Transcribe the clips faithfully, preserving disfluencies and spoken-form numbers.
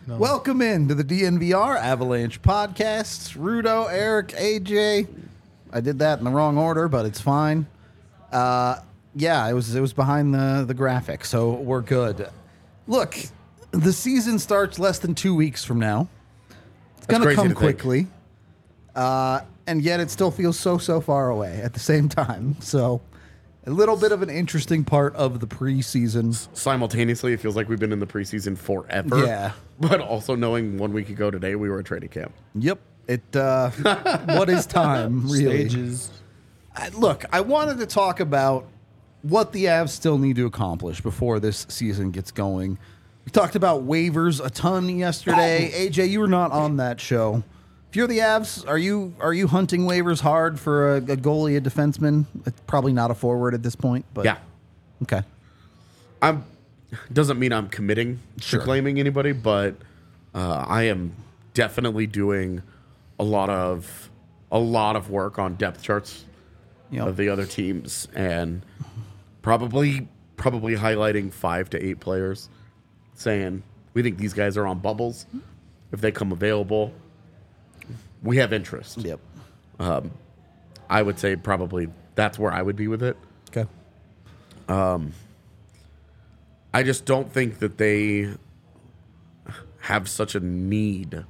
No. Welcome in to the D N V R Avalanche Podcasts. Rudo, Eric, A J. I did that in the wrong order, but it's fine. Uh, yeah, it was it was behind the, the graphic, so we're good. Look, the season starts less than two weeks from now. It's going to come quickly. Uh, and yet it still feels so, so far away at the same time. So a little bit of an interesting part of the preseason. Simultaneously, it feels like we've been in the preseason forever. Yeah. But also knowing one week ago today, we were at training camp. Yep. It. Uh, what is time, really? Stages. I, look, I wanted to talk about what the Avs still need to accomplish before this season gets going. We talked about waivers a ton yesterday. A J, you were not on that show. If you're the Avs, are you are you hunting waivers hard for a, a goalie, a defenseman? It's probably not a forward at this point, but Yeah. Okay. I'm doesn't mean I'm committing Sure. to claiming anybody, but uh, I am definitely doing a lot of a lot of work on depth charts Yep. of the other teams and probably probably highlighting five to eight players, saying we think these guys are on bubbles. If they come available, we have interest. Yep. I would say probably that's where I would be with it. Okay. I just don't think that they have such a need,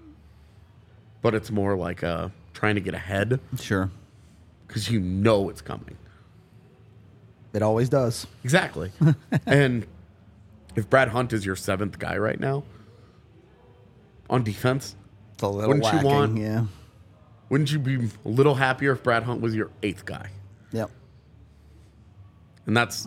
but it's more like uh, trying to get ahead Sure. because you know it's coming. It always does. Exactly. And if Brad Hunt is your seventh guy right now on defense, It's a little Wouldn't you lacking, want- yeah. wouldn't you be a little happier if Brad Hunt was your eighth guy? Yep. And that's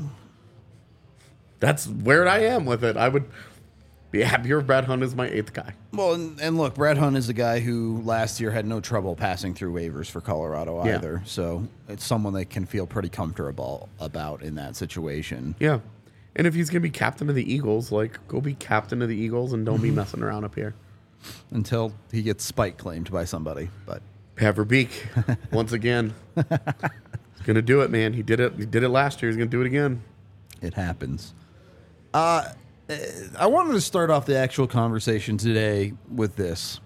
that's where I am with it. I would be happier if Brad Hunt is my eighth guy. Well, and, and look, Brad Hunt is a guy who last year had no trouble passing through waivers for Colorado Yeah. either. So it's someone they can feel pretty comfortable about in that situation. Yeah. And if he's going to be captain of the Eagles, like, go be captain of the Eagles and don't be messing around up here. Until he gets spike claimed by somebody. But Paverbeek, once again, he's going to do it, man. He did it. He did it last year. He's going to do it again. it happens. Uh, I wanted to start off the actual conversation today with this.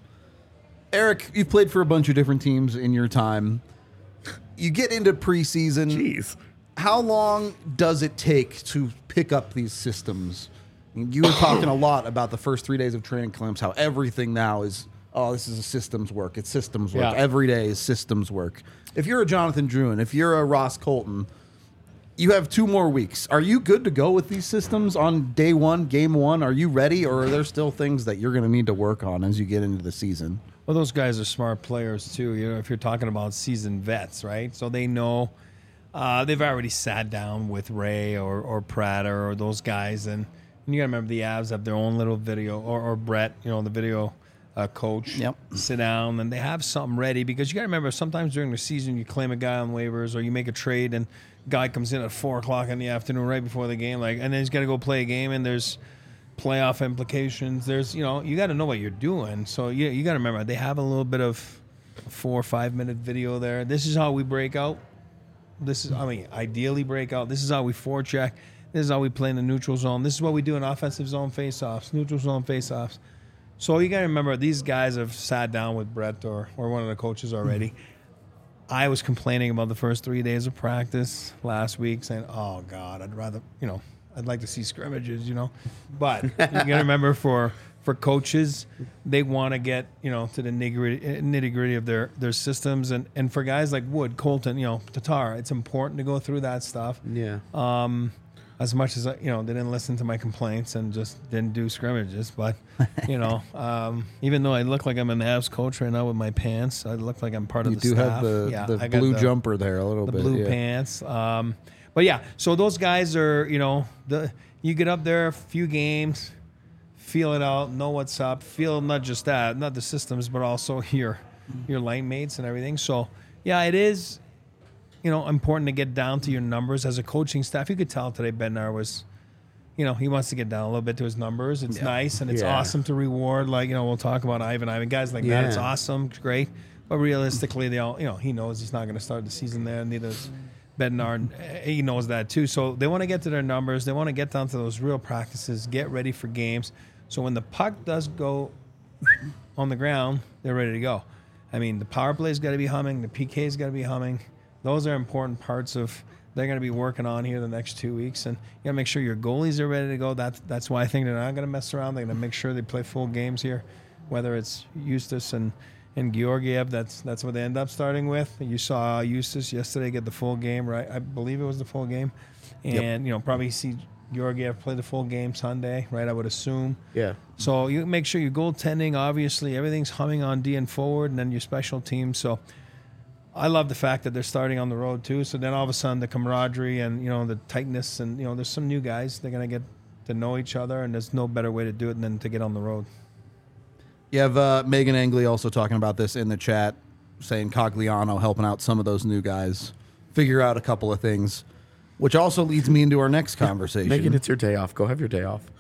Eric, you've played for a bunch of different teams in your time. You get into preseason. Jeez. How long does it take to pick up these systems? You were talking a lot about the first three days of training camps, how everything now is, oh, this is a systems work. It's systems work. Yeah. Every day is systems work. If you're a Jonathan Druin, if you're a Ross Colton, you have two more weeks. Are you good to go with these systems on day one, game one? Are you ready, or are there still things that you're going to need to work on as you get into the season? Well, those guys are smart players too. You know, if you're talking about seasoned vets, right? So they know uh, they've already sat down with Ray or or Prater or those guys, and, and you got to remember the Avs have their own little video, or, or Brett, you know, the video uh, coach. Yep. Sit down and they have something ready, because you got to remember sometimes during the season you claim a guy on waivers or you make a trade and guy comes in at four o'clock in the afternoon right before the game, like, and then he's got to go play a game, and there's playoff implications. There's, you know, you got to know what you're doing. So you you got to remember they have a little bit of a four or five minute video there. This is how we break out. This is, I mean, ideally break out. This is how we forecheck. This is how we play in the neutral zone. This is what we do in offensive zone faceoffs, neutral zone faceoffs. So you got to remember these guys have sat down with Brett or or one of the coaches already. I was complaining about the first three days of practice last week, saying, "Oh God, I'd rather, you know, I'd like to see scrimmages, you know." But you got to remember, for for coaches, they want to get, you know, to the nitty gritty of their their systems, and and for guys like Wood, Colton, you know, Tatar, it's important to go through that stuff. Yeah. Um, as much as, you know, they didn't listen to my complaints and just didn't do scrimmages. But, you know, um, even though I look like I'm an Avs coach right now with my pants, I look like I'm part of You the do staff. have the, Yeah, the I got blue the- jumper there a little the bit. blue yeah. pants. Um, but yeah, so those guys are, you know, the you get up there a few games, feel it out, know what's up, feel not just that, not the systems, but also your your line mates and everything. So yeah, it is, you know, important to get down to your numbers as a coaching staff. You could tell today Bednar was, you know, he wants to get down a little bit to his numbers. It's Yeah. nice and it's Yeah. awesome to reward. Like, you know, we'll talk about Ivan, Ivan, guys like that. It's Yeah. awesome, it's great. But realistically, they all, you know, he knows he's not going to start the season there. Neither is Bednar. He knows that too. So they want to get to their numbers. They want to get down to those real practices, get ready for games. So when the puck does go on the ground, they're ready to go. I mean, the power play's got to be humming. The P K's got to be humming. Those are important parts of they're going to be working on here the next two weeks. And you got to make sure your goalies are ready to go. That's, that's why I think they're not going to mess around. They're going to make sure they play full games here, whether it's Eustace and, and Georgiev. That's that's what they end up starting with. You saw Eustace yesterday get the full game, right? I believe it was the full game. And, yep. you know, probably see Georgiev play the full game Sunday, right? I would assume. Yeah. So you make sure your goaltending, obviously, everything's humming on D and forward, and then your special teams. So I love the fact that they're starting on the road too. So then all of a sudden the camaraderie and, you know, the tightness and, you know, there's some new guys. They're going to get to know each other, and there's no better way to do it than to get on the road. You have uh, Megan Angley also talking about this in the chat, saying Cogliano helping out some of those new guys figure out a couple of things. Which also leads me into our next conversation. Megan, it's your day off. Go have your day off.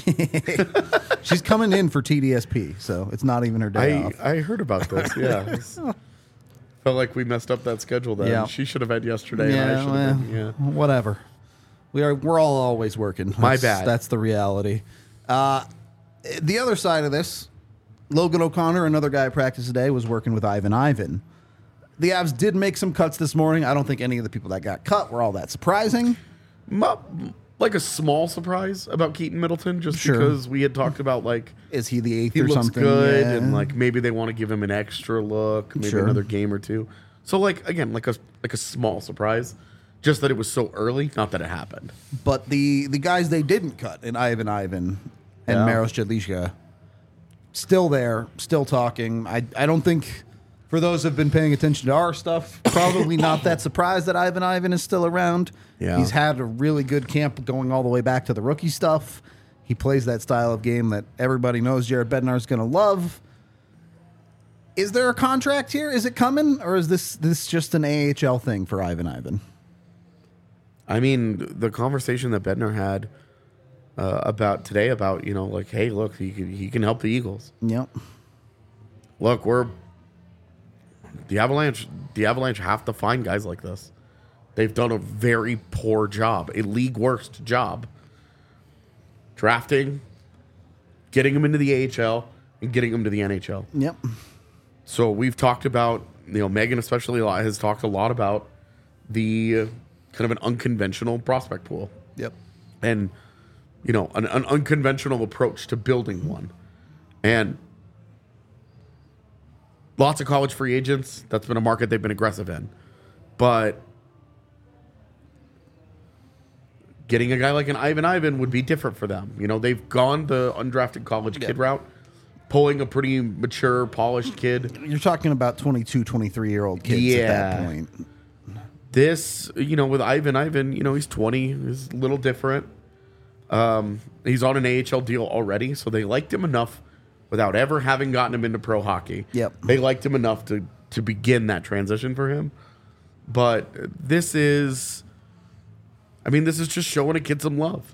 She's coming in for T D S P, so it's not even her day I, off. I heard about this, yeah. Felt like we messed up that schedule then. Yeah. She should have had yesterday, yeah, and I should well, have been, yeah. Whatever. We are, we're all always working. My That's, bad. That's the reality. Uh, the other side of this, Logan O'Connor, another guy at practice today, was working with Ivan Ivan. The Avs did make some cuts this morning. I don't think any of the people that got cut were all that surprising. Like a small surprise about Keaton Middleton, just Sure. because we had talked about, like, is he the eighth he or looks something? good, Yeah. and like maybe they want to give him an extra look, maybe Sure. another game or two. So like again, like a like a small surprise, just that it was so early, not that it happened. But the the guys they didn't cut in Ivan Ivan and Yeah. Maros Jedlicka, still there, still talking. I I don't think, for those who've been paying attention to our stuff, probably not that surprised that Ivan Ivan is still around. Yeah. He's had a really good camp going all the way back to the rookie stuff. He plays that style of game that everybody knows Jared Bednar is going to love. Is there a contract here? Is it coming? Or is this this just an A H L thing for Ivan Ivan? I mean, the conversation that Bednar had uh, about today about, you know, like, hey, look, he can, he can help the Eagles. Yep. Look, we're the Avalanche. The Avalanche have to find guys like this. They've done a very poor job, a league worst job, drafting, getting them into the A H L, and getting them to the N H L. Yep. So we've talked about, you know, Megan especially a lot, has talked a lot about the uh, kind of an unconventional prospect pool. Yep. And, you know, an, an unconventional approach to building one. And lots of college free agents. That's been a market they've been aggressive in. But getting a guy like an Ivan Ivan would be different for them. You know, they've gone the undrafted college kid route, pulling a pretty mature, polished kid. You're talking about twenty-two, twenty-three-year-old kids Yeah. at that point. This, you know, with Ivan Ivan, you know, he's twenty, he's a little different. Um, he's on an A H L deal already, so they liked him enough without ever having gotten him into pro hockey. Yep. They liked him enough to, to begin that transition for him. But this is, I mean, this is just showing a kid some love.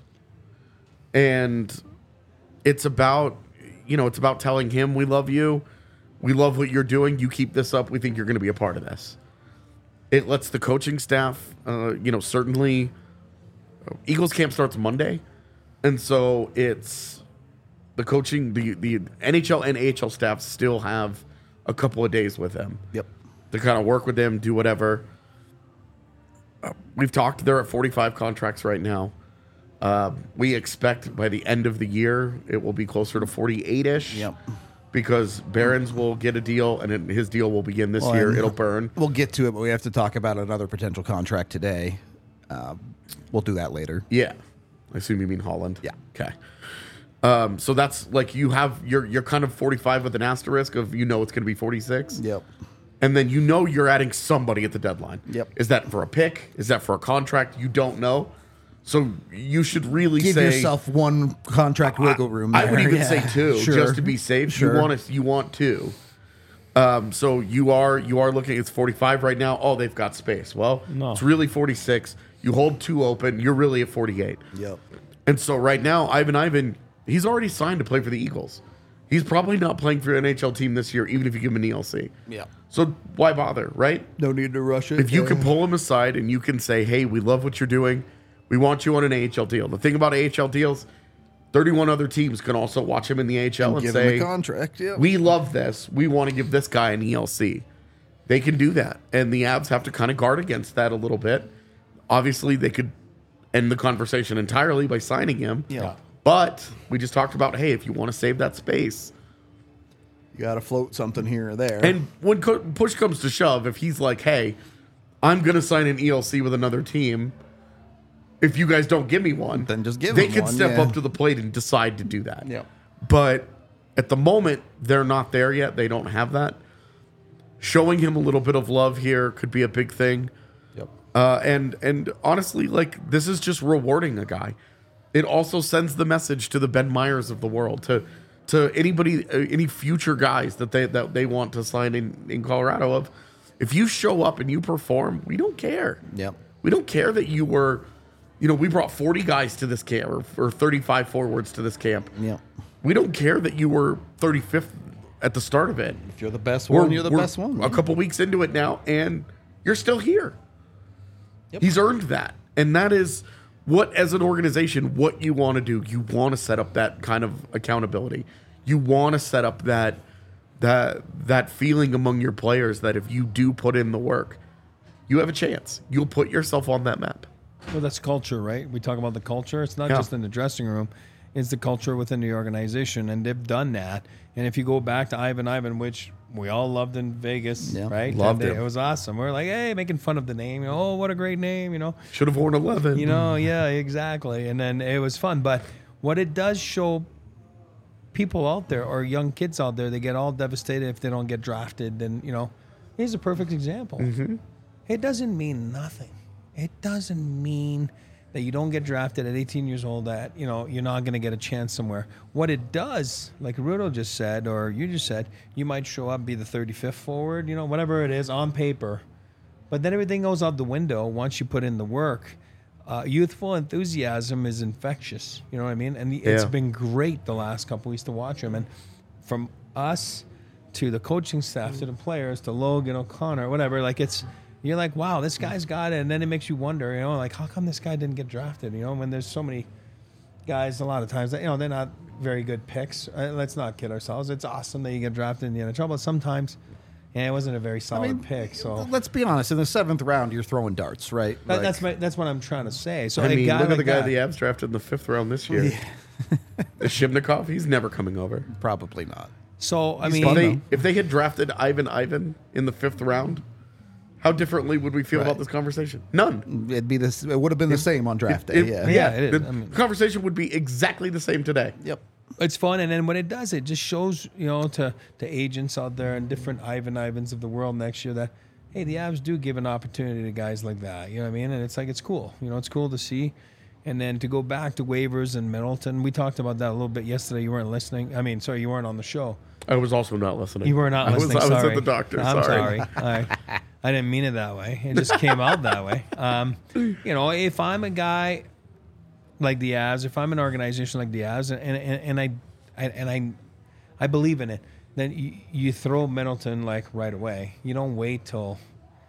And it's about, you know, it's about telling him we love you. We love what you're doing. You keep this up. We think you're going to be a part of this. It lets the coaching staff, uh, you know, certainly Eagles camp starts Monday. And so it's the coaching, the, the N H L and A H L staff still have a couple of days with him. Yep. To kind of work with them, do whatever. Uh, we've talked, they're at forty-five contracts right now. Uh, we expect by the end of the year, it will be closer to forty-eight-ish. Yep. Because Barons will get a deal, and it, his deal will begin this Well, year. and It'll burn. We'll get to it, but we have to talk about another potential contract today. Uh, we'll do that later. Yeah. I assume you mean Holland. Yeah. Okay. Um, so that's like you have, you're, you're kind of forty-five with an asterisk of, you know, it's going to be forty-six. Yep. And then you know you're adding somebody at the deadline. Yep. Is that for a pick? Is that for a contract? You don't know. So you should really Give say, yourself one contract wiggle room. I, I would there. even Yeah. say two, Sure. just to be safe. Sure. You want to, you want two. Um, so you are you are looking. It's forty-five right now. Oh, they've got space. Well, No. it's really forty-six. You hold two open. You're really at forty-eight. Yep. And so right now, Ivan Ivan, he's already signed to play for the Eagles. He's probably not playing for an N H L team this year, even if you give him an E L C. Yep. So why bother, right? No need to rush it. If you Yeah. can pull him aside and you can say, hey, we love what you're doing. We want you on an A H L deal. The thing about A H L deals, thirty-one other teams can also watch him in the A H L and, and give say, him a contract. Yeah. we love this. We want to give this guy an E L C. They can do that. And the Avs have to kind of guard against that a little bit. Obviously, they could end the conversation entirely by signing him. Yeah. But we just talked about, hey, if you want to save that space. You got to float something here or there. And when co- push comes to shove, if he's like, hey, I'm going to sign an E L C with another team, if you guys don't give me one, then just give they him can one, step yeah. up to the plate and decide to do that. Yeah. But at the moment, they're not there yet. They don't have that. Showing him a little bit of love here could be a big thing. Yep. Uh, and and honestly, like, this is just rewarding a guy. It also sends the message to the Ben Myers of the world, to to anybody, uh, any future guys that they that they want to sign in, in Colorado of, if you show up and you perform, we don't care. Yep. We don't care that you were, you know, we brought forty guys to this camp or, or thirty-five forwards to this camp. Yep. We don't care that you were thirty-fifth at the start of it. If you're the best We're- one, you're the we're best one. A couple weeks into it now, and you're still here. Yep. He's earned that. And that is what, as an organization, what you want to do. You want to set up that kind of accountability. You want to set up that that that feeling among your players that if you do put in the work, you have a chance. You'll put yourself on that map. Well, that's culture, right? We talk about the culture. It's not Yeah. just in the dressing room. It's the culture within the organization, and they've done that. And if you go back to Ivan Ivan, which we all loved in Vegas, Yeah. right? Loved And him. It was awesome. We are like, hey, making fun of the name. You know, oh, what a great name, you know. Should have worn eleven. You know, yeah, exactly. And then it was fun. But what it does show people out there or young kids out there, they get all devastated if they don't get drafted. And, you know, here's a perfect example. Mm-hmm. It doesn't mean nothing. It doesn't mean that you don't get drafted at eighteen years old, that, you know, you're not going to get a chance somewhere. What it does, like Rudo just said, or you just said, you might show up, be the thirty-fifth forward, you know, whatever it is on paper. But then everything goes out the window once you put in the work. Uh, youthful enthusiasm is infectious. You know what I mean? And it's Yeah. been great the last couple weeks to watch him. And from us to the coaching staff to the players to Logan O'Connor, whatever, like it's, you're like, wow, this guy's got it. And then it makes you wonder, you know, like, how come this guy didn't get drafted? You know, when there's so many guys a lot of times that, you know, they're not very good picks. Uh, let's not kid ourselves. It's awesome that you get drafted in the N H L, but sometimes, yeah, it wasn't a very solid pick. So let's be honest. In the seventh round, you're throwing darts, right? that, Like, that's my, that's what I'm trying to say. So I a mean, guy look at like the guy that, the Avs drafted in the fifth round this year. Shibnikov, he's never coming over. probably not. So I He's mean, If fun, they, though. if they had drafted Ivan Ivan in the fifth round, how differently would we feel Right. about this conversation? None. It'd be this. It would have been the same on draft day. If- yeah. Yeah, it is. The I mean- conversation would be exactly the same today. Yep. it's fun, and then when it does, it just shows, you know, to to agents out there and different Ivan Ivans of the world next year that, hey, the Avs do give an opportunity to guys like that. You know what I mean? And it's like, it's cool. You know, it's cool to see. And then to go back to waivers and Middleton, we talked about that a little bit yesterday. You weren't listening. I mean, sorry, you weren't on the show. I was also not listening. You were not I was, listening. I was sorry. at the doctor. I'm sorry. sorry. I, I didn't mean it that way. It just came out that way. Um, you know, if I'm a guy like the Avs, if I'm an organization like the Avs, and and, and I, I and I, I believe in it, then you, you throw Middleton like right away. You don't wait till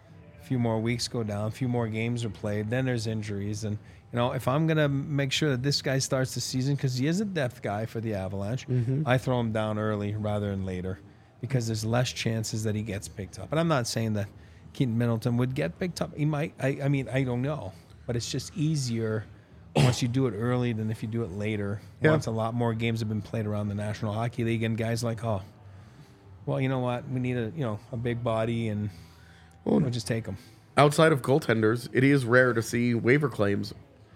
a few more weeks go down, a few more games are played. Then there's injuries, and you know, if I'm gonna make sure that this guy starts the season because he is a depth guy for the Avalanche, I throw him down early rather than later because there's less chances that he gets picked up. And I'm not saying that Keaton Middleton would get picked up. He might. I, I mean, I don't know, but it's just easier once you do it early than if you do it later. Yeah. Once a lot more games have been played around the National Hockey League, and guys like, oh, well, you know what, we need a you know a big body, and we'll just take him. Outside of goaltenders, it is rare to see waiver claims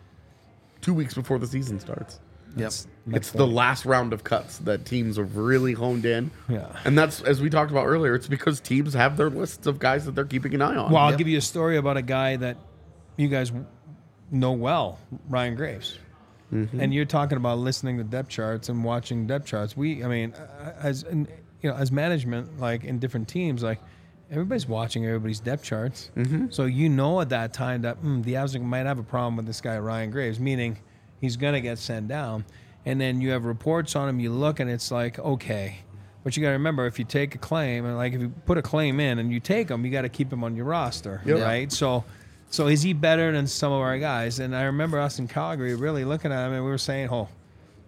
two weeks before the season starts. Yep. It's the last round of cuts that teams have really honed in. Yeah. And that's, as we talked about earlier, it's because teams have their lists of guys that they're keeping an eye on. Well, I'll Yep. give you a story about a guy that you guys know well, Ryan Graves. And you're talking about listening to depth charts and watching depth charts. We, I mean, uh, as in, you know, as management, like in different teams, like everybody's watching everybody's depth charts. So you know at that time that mm, the Avs might have a problem with this guy Ryan Graves, meaning he's gonna get sent down. And then you have reports on him. You look and it's like, okay. But you got to remember, if you take a claim, and like if you put a claim in and you take him, you got to keep him on your roster, Yep. right? So, so is he better than some of our guys? And I remember us in Calgary really looking at him, and we were saying, "Oh,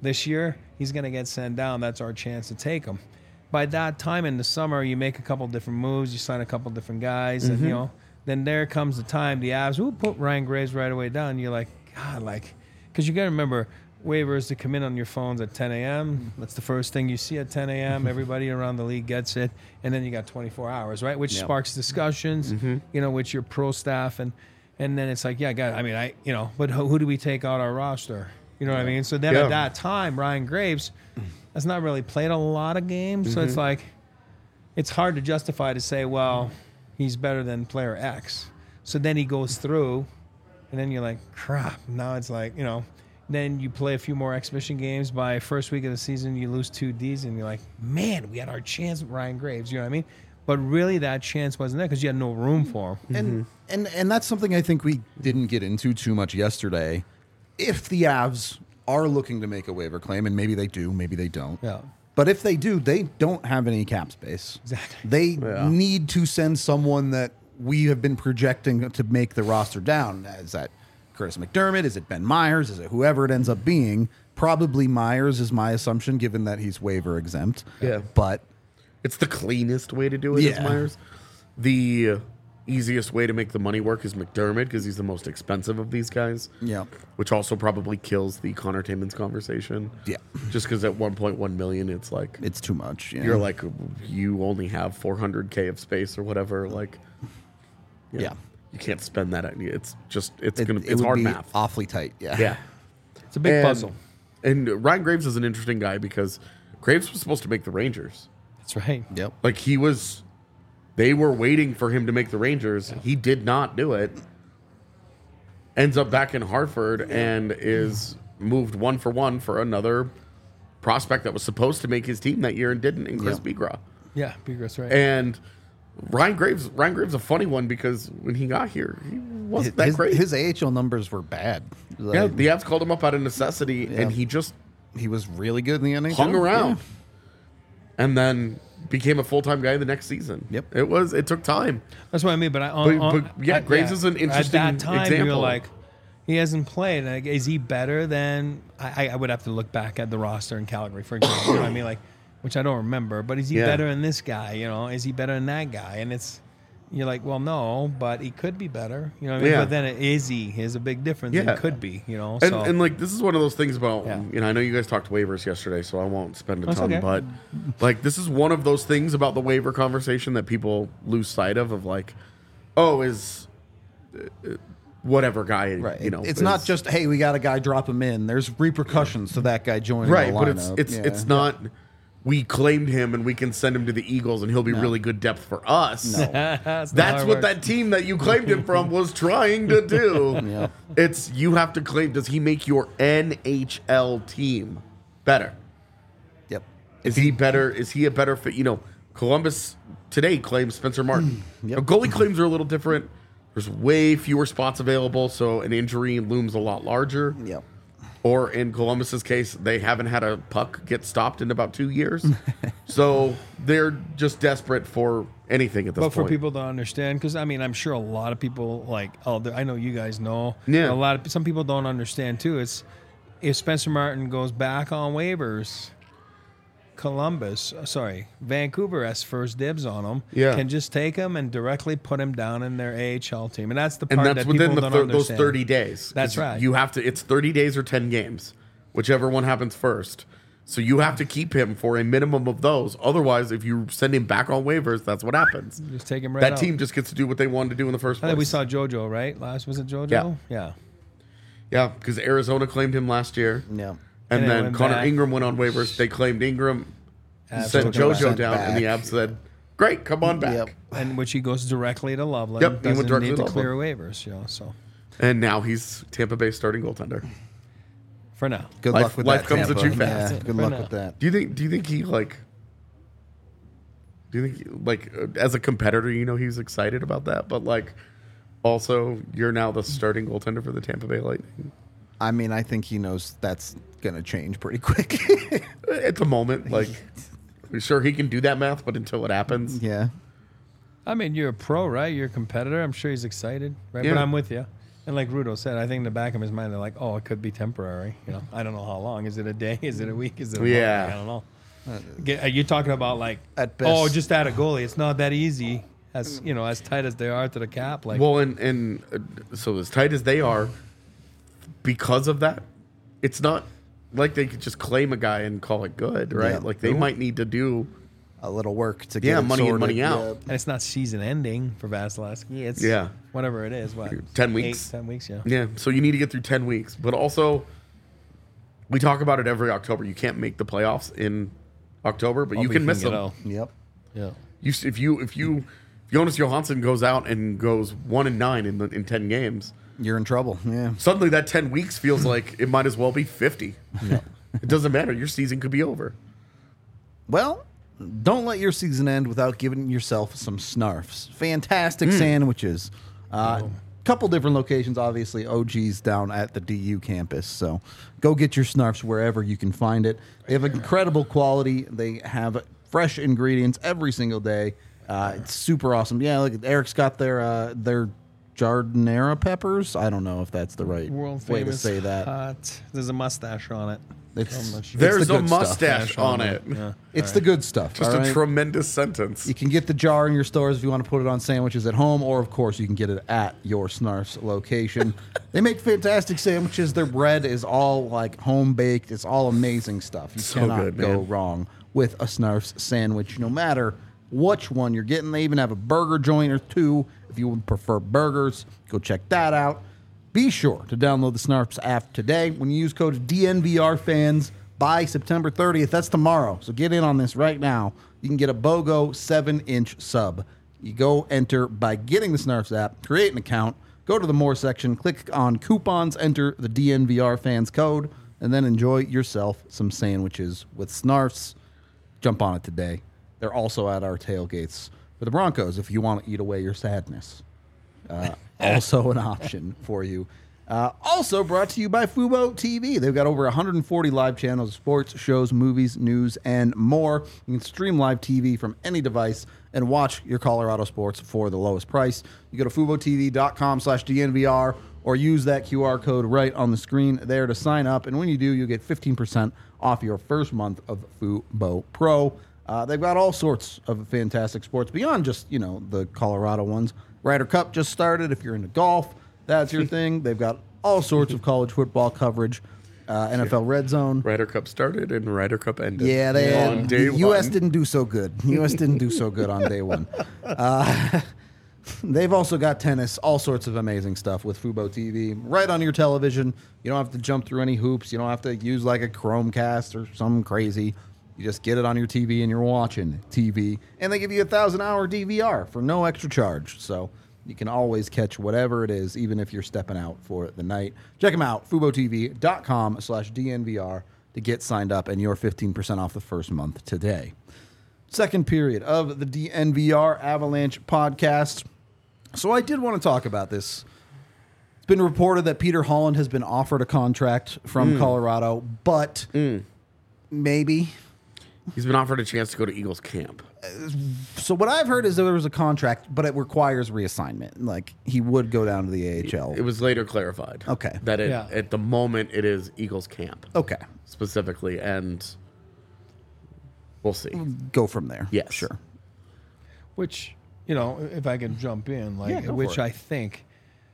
This year, he's going to get sent down. That's our chance to take him. By that time in the summer, you make a couple different moves. You sign a couple different guys. Mm-hmm. And, you know, then there comes the time, the Avs, who put Ryan Graves right away down. You're like, God, like, because you got to remember, waivers to come in on your phones at ten a.m. That's the first thing you see at ten a.m. Everybody around the league gets it. And then you got twenty-four hours, right? Which Yep. sparks discussions, Mm-hmm. you know, with your pro staff. And, and then it's like, yeah, God, I mean, I, you know, but who, who do we take out our roster? You know what I mean? So then Yeah. at that time, Ryan Graves has not really played a lot of games. So it's like, it's hard to justify to say, well, he's better than player X. So then he goes through, and then you're like, crap. Now it's like, you know, then you play a few more exhibition games. By first week of the season, you lose two Ds, and you're like, man, we had our chance with Ryan Graves. You know what I mean? But really, that chance wasn't there because you had no room for him. And and and that's something I think we didn't get into too much yesterday. If the Avs are looking to make a waiver claim, and maybe they do, maybe they don't. Yeah. But if they do, they don't have any cap space. Exactly. They Yeah. need to send someone that we have been projecting to make the roster down. Is that Curtis McDermott? Is it Ben Myers? Is it whoever it ends up being? Probably Myers is my assumption, given that he's waiver exempt. Yeah. But It's the cleanest way to do it, is Yeah. Myers. The easiest way to make the money work is McDermott because he's the most expensive of these guys. yeah, Which also probably kills the Connor Timmins conversation. Yeah. Just because at one point one million, it's like it's too much. Yeah. you're like you only have four hundred K of space or whatever. Like, yeah. you can't spend that. It's just it's It, gonna it it's would hard be math. awfully tight. Yeah. Yeah. It's a big And- puzzle. And Ryan Graves is an interesting guy because Graves was supposed to make the Rangers. That's right. Yep. Like he was, they were waiting for him to make the Rangers. He did not do it. Ends up back in Hartford and is moved one for one for another prospect that was supposed to make his team that year and didn't, in Chris Yeah. Begra. Yeah, Begra's right. And Ryan Graves, Ryan Graves, is a funny one because when he got here, he wasn't that his, great. his A H L numbers were bad. Like, yeah, the Avs called him up out of necessity, Yeah. and he just he was really good in the N H L. hung around, Yeah. and then became a full time guy the next season. Yep. it was. It took time. That's what I mean. But I, on, But- on, but, yeah, at- Graves is an interesting At that time, you're example. like, he hasn't played. Like, is he better than? I, I would have to look back at the roster in Calgary, for example. You know what I mean? Like, which I don't remember. But is he Yeah. better than this guy? You know, is he better than that guy? And it's, you're like, well, no, but he could be better. You know what I mean? Yeah. But then it, is he? Is a big difference. Yeah. It could be. You know. And, so and like this is one of those things about Yeah. you know I know you guys talked waivers yesterday, so I won't spend a That's ton. okay. But like this is one of those things about the waiver conversation that people lose sight of. Of like, oh, is uh, whatever guy Right. you know? it's is- not just hey, we got a guy, drop him in. There's repercussions to that guy joining right, the but it's lineup. it's Yeah. it's not. We claimed him and we can send him to the Eagles and he'll be really good depth for us. No. that's, not how That's it what works. that team that you claimed him from was trying to do. Yeah. It's you have to claim. Does he make your N H L team better? Yep. Is he better? Is he a better fit? You know, Columbus today claims Spencer Martin. Yep. Now, goalie claims are a little different. There's way fewer spots available, so an injury looms a lot larger. Yep. Or in Columbus's case, they haven't had a puck get stopped in about two years, so they're just desperate for anything at this But point. for people to understand, because I mean, I'm sure a lot of people like, oh, I know you guys know. Yeah. A lot of some people don't understand too. It's if Spencer Martin goes back on waivers, Columbus, uh, sorry, Vancouver has first dibs on him. Yeah. Can just take him and directly put him down in their A H L team, and that's the and part that's that within people the don't thir- those understand. thirty days. 'Cause That's right. You have to. It's thirty days or ten games, whichever one happens first. So you have to keep him for a minimum of those. Otherwise, if you send him back on waivers, that's what happens. Just take him right That out. team just gets to do what they wanted to do in the first I place. think we saw JoJo right last. Was it JoJo? Yeah. Yeah. yeah, because Arizona claimed him last year, Yeah. and, And it then went Connor back. Ingram went on waivers. They claimed Ingram, Avs sent took him JoJo back. down, and the Back. Avs said, "Great, come on back." Yep. And which he goes directly to Loveland. Yep, he went Doesn't directly need to to clear waivers. You know, so And now he's Tampa Bay starting goaltender. for now. Good Life- luck with life that. comes at Tampa. you fast. Yeah, good For luck now. with that. Do you think? Do you think he like? Do you think like uh, as a competitor, you know, he's excited about that, but like, also you're now the starting goaltender for the Tampa Bay Lightning. I mean, I think he knows that's going to change pretty quick. At the moment, like, sure he can do that math, but until it happens, yeah. I mean, you're a pro, right? You're a competitor. I'm sure he's excited, right? Yeah. But I'm with you. And like Rudo said, I think in the back of his mind, they're like, oh, it could be temporary. You know, I don't know how long. Is it a day? Is it a week? Is it a Yeah. month? I don't know. Get- Are you talking about like, At best. oh, just add a goalie? It's not that easy. As you know, as tight as they are to the cap, like Well, and and uh, so as tight as they are, because of that, it's not like they could just claim a guy and call it good, right? Yeah. Like they might need to do A little work to get Yeah, it money in, sorted. money out. Yeah. and it's not season ending for Vasilevsky. It's Yeah. whatever it is. What ten weeks. Eight, ten weeks, yeah. Yeah, so you need to get through ten weeks. But also, we talk about it every October. You can't make the playoffs in October, but you Hopefully can miss get them. out. Yep. Yeah. You, s- if you if you if Jonas Johansson goes out and goes one and nine in the, in ten games, You're in trouble. Yeah. suddenly that ten weeks feels like it might as well be fifty. It doesn't matter. Your season could be over. Well, don't let your season end without giving yourself some snarfs. Fantastic sandwiches. Uh, Couple different locations, obviously. O G's down at the D U campus. So go get your snarfs wherever you can find it. They have incredible quality. They have fresh ingredients every single day. Uh, it's super awesome. Yeah, look, Eric's got their uh, their jardinera peppers. I don't know if that's the right World way to famous say that. hot. There's a mustache on it. It's, I'm not sure. There's it's the a good stuff. mustache on it. Yeah. It's the good stuff. Just all a right? tremendous sentence. You can get the jar in your stores if you want to put it on sandwiches at home, or of course you can get it at your Snarf's location. They make fantastic sandwiches. Their bread is all like home baked. It's all amazing stuff. You So cannot good, go man. wrong with a Snarf's sandwich, no matter which one you're getting. They even have a burger joint or two if you would prefer burgers. Go check that out. Be sure to download the Snarf's app today. When you use code D N V R fans by September thirtieth, that's tomorrow. So get in on this right now. You can get a BOGO seven inch sub. You go enter by getting the Snarf's app, create an account, go to the More section, click on coupons, enter the D N V R fans code, and then enjoy yourself some sandwiches with Snarf's. Jump on it today. They're also at our tailgates for the Broncos if you want to eat away your sadness. Uh, also an option for you. Uh, also brought to you by Fubo T V. They've got over one hundred forty live channels of sports, shows, movies, news, and more. You can stream live T V from any device and watch your Colorado sports for the lowest price. You go to FuboTV.com slash DNVR or use that Q R code right on the screen there to sign up. And when you do, you get fifteen percent off your first month of Fubo Pro. Uh, they've got all sorts of fantastic sports beyond just, you know, the Colorado ones. Ryder Cup just started. If you're into golf, that's your thing. They've got all sorts of college football coverage. Uh, N F L Red Zone. Ryder Cup started and Ryder Cup ended. Yeah, they on day the U S one. didn't do so good. The U S didn't do so good on day one. Uh, they've also got tennis, all sorts of amazing stuff with Fubo T V right on your television. You don't have to jump through any hoops. You don't have to use like a Chromecast or some crazy. You just get it on your T V and you're watching T V. And they give you a thousand hour D V R for no extra charge. So you can always catch whatever it is, even if you're stepping out for the night. Check them out, FuboTV.com slash DNVR to get signed up and your fifteen percent off the first month today. Second period of the D N V R Avalanche podcast. So I did want to talk about this. It's been reported that Peter Holland has been offered a contract from Colorado, but maybe. He's been offered a chance to go to Eagles camp. So what I've heard is that there was a contract, but it requires reassignment. Like he would go down to the A H L. It was later clarified. Okay. That it, Yeah. at the moment it is Eagles camp Okay, specifically, and we'll see. go from there. Yes. Sure. Which, you know, if I can jump in, like, Yeah, go for which it. I think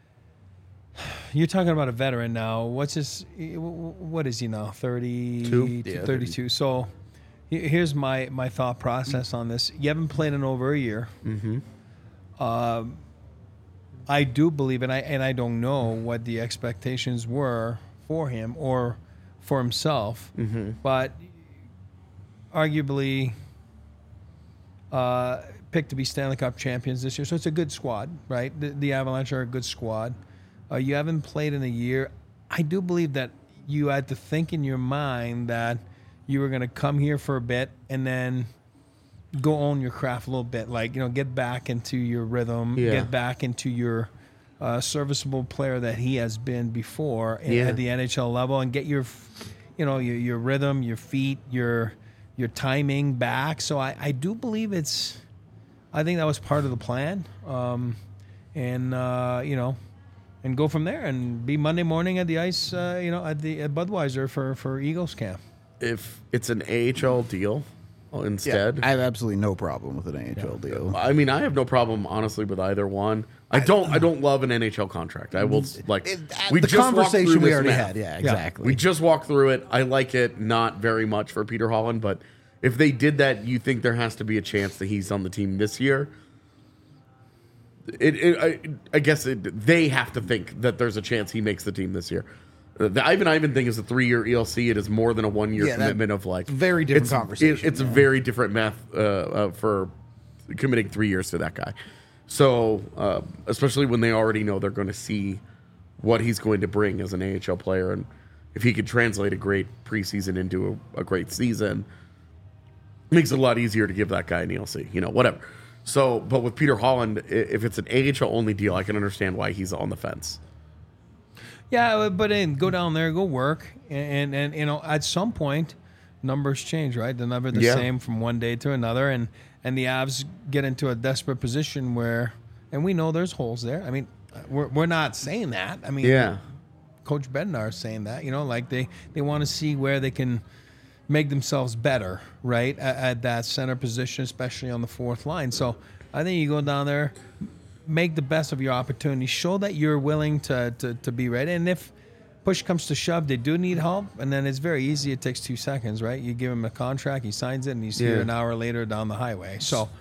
you're talking about a veteran now. What's his? What is he now? Thirty, Yeah, thirty-two. So he- here's my my thought process on this. You haven't played in over a year. Mm-hmm. Um, I do believe, and I and I don't know what the expectations were for him or for himself, Mm-hmm. but arguably uh, picked to be Stanley Cup champions this year. So it's a good squad, right? The, the Avalanche are a good squad. Uh, you haven't played in a year. I do believe that you had to think in your mind that you were going to come here for a bit and then go own your craft a little bit. Like, you know, get back into your rhythm, Yeah. get back into your uh, serviceable player that he has been before in- Yeah. at the N H L level, and get your, you know, your, your rhythm, your feet, your your timing back. So I, I do believe it's, I think that was part of the plan. Um, and, uh, you know, and go from there and be Monday morning at the ice, uh, you know, at the at Budweiser for for Eagles camp. If it's an A H L deal instead, I have absolutely no problem with an A H L deal. I mean, I have no problem honestly with either one. I don't. I don't love an N H L contract. I will like. It, we the just walked conversation through we this already math. had. Yeah, exactly. We just walked through it. I like it not very much for Peter Holland, but if they did that, you think there has to be a chance that he's on the team this year. It, it I, I guess it, they have to think that there's a chance he makes the team this year. The Ivan Ivan thing is a three-year E L C. It is more than a one-year Yeah, that- commitment of like very different it's, conversation, it- it's yeah. a very different math uh, uh, for committing three years to that guy. So, uh, especially when they already know they're going to see what he's going to bring as an A H L player, and if he could translate a great preseason into a, a great season, it makes it a lot easier to give that guy an E L C. You know, whatever. So, but with Peter Holland, i- if it's an A H L only deal, I can understand why he's on the fence. Yeah, but then go down there, go work, and, and and you know at some point, numbers change, right? They're never the Yeah. same from one day to another, and and the Avs get into a desperate position where, and we know there's holes there. I mean, we're we're not saying that. I mean, Yeah. Coach Bednar is saying that. You know, like they they want to see where they can make themselves better, right, at, at that center position, especially on the fourth line. So I think you go down there, make the best of your opportunity, show that you're willing to, to, to be ready. And if push comes to shove, they do need help, and then it's very easy. It takes two seconds, right? You give him a contract, he signs it, and he's here Yeah. an hour later down the highway. So,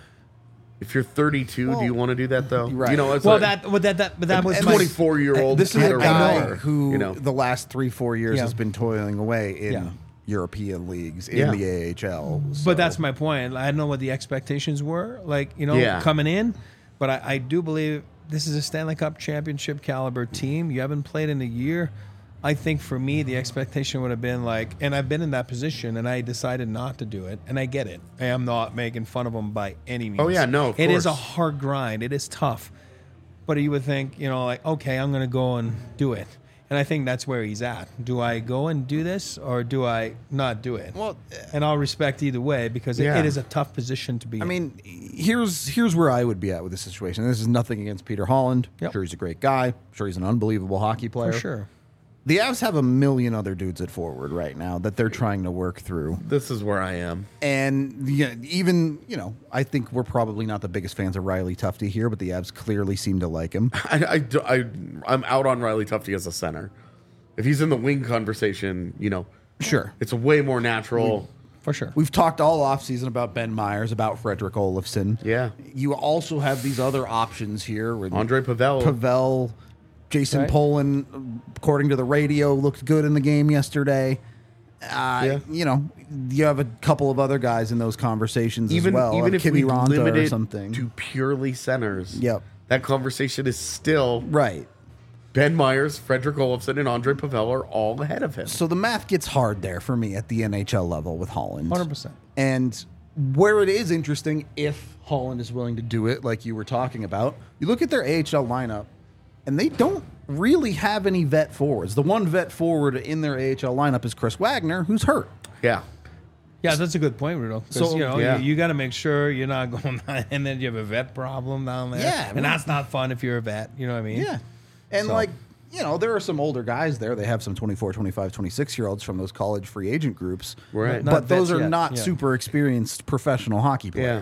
If you're thirty-two, Well, do you want to do that though? right. You know, it's well, like, that, but that, that, but that was and my- twenty-four-year-old This is kid a or guy whatever, who, you know. the last three, four years, Yeah. has been toiling away in Yeah. European leagues, in Yeah. the A H L. so- But that's my point. I don't know what the expectations were, like, you know, Yeah. coming in. But I, I do believe this is a Stanley Cup championship caliber team. You haven't played in a year. I think for me, the expectation would have been like, and I've been in that position, and I decided not to do it, and I get it. I am not making fun of them by any means. Oh, yeah, no, of It is a course. hard grind. It is tough. But you would think, you know, like, okay, I'm going to go and do it. And I think that's where he's at. Do I go and do this, or do I not do it? Well, and I'll respect either way because it, Yeah. it is a tough position to be I in. mean, here's here's where I would be at with this situation. This is nothing against Peter Holland. Yep. Sure, he's a great guy. Sure, he's an unbelievable hockey player. For sure. The Avs have a million other dudes at forward right now that they're trying to work through. This is where I am. And yeah, even, you know, I think we're probably not the biggest fans of Riley Tufte here, but the Avs clearly seem to like him. I, I, do- I, I'm out on Riley Tufte as a center. If he's in the wing conversation, you know, Sure. it's way more natural. For sure. We've talked all offseason about Ben Myers, about Frederick Olofsson. Yeah. You also have these other options here with Andre Pavel. Pavel, Jason Right. Poland, according to the radio, looked good in the game yesterday. Uh, Yeah. You know, you have a couple of other guys in those conversations even as well. even uh, if we Kiviranta limit or it something. to purely centers, Yep. that conversation is still Right. Ben Myers, Frederick Olofsson, and Andre Pavel are all ahead of him. So the math gets hard there for me at the N H L level with Holland. one hundred percent. And where it is interesting, if Holland is willing to do it, like you were talking about, you look at their A H L lineup, and they don't really have any vet forwards. The one vet forward in their A H L lineup is Chris Wagner, who's hurt. Yeah. Yeah, that's a good point, Rudo. So So- you know, Yeah. you, you got to make sure you're not going down, and then you have a vet problem down there. Yeah, and well- that's not fun if you're a vet. You know what I mean? Yeah. And So- like, you know, there are some older guys there. They have some twenty-four, twenty-five, twenty-six year olds from those college free agent groups. Right. Not But those vets are yet, not yeah. super experienced professional hockey Yeah. players.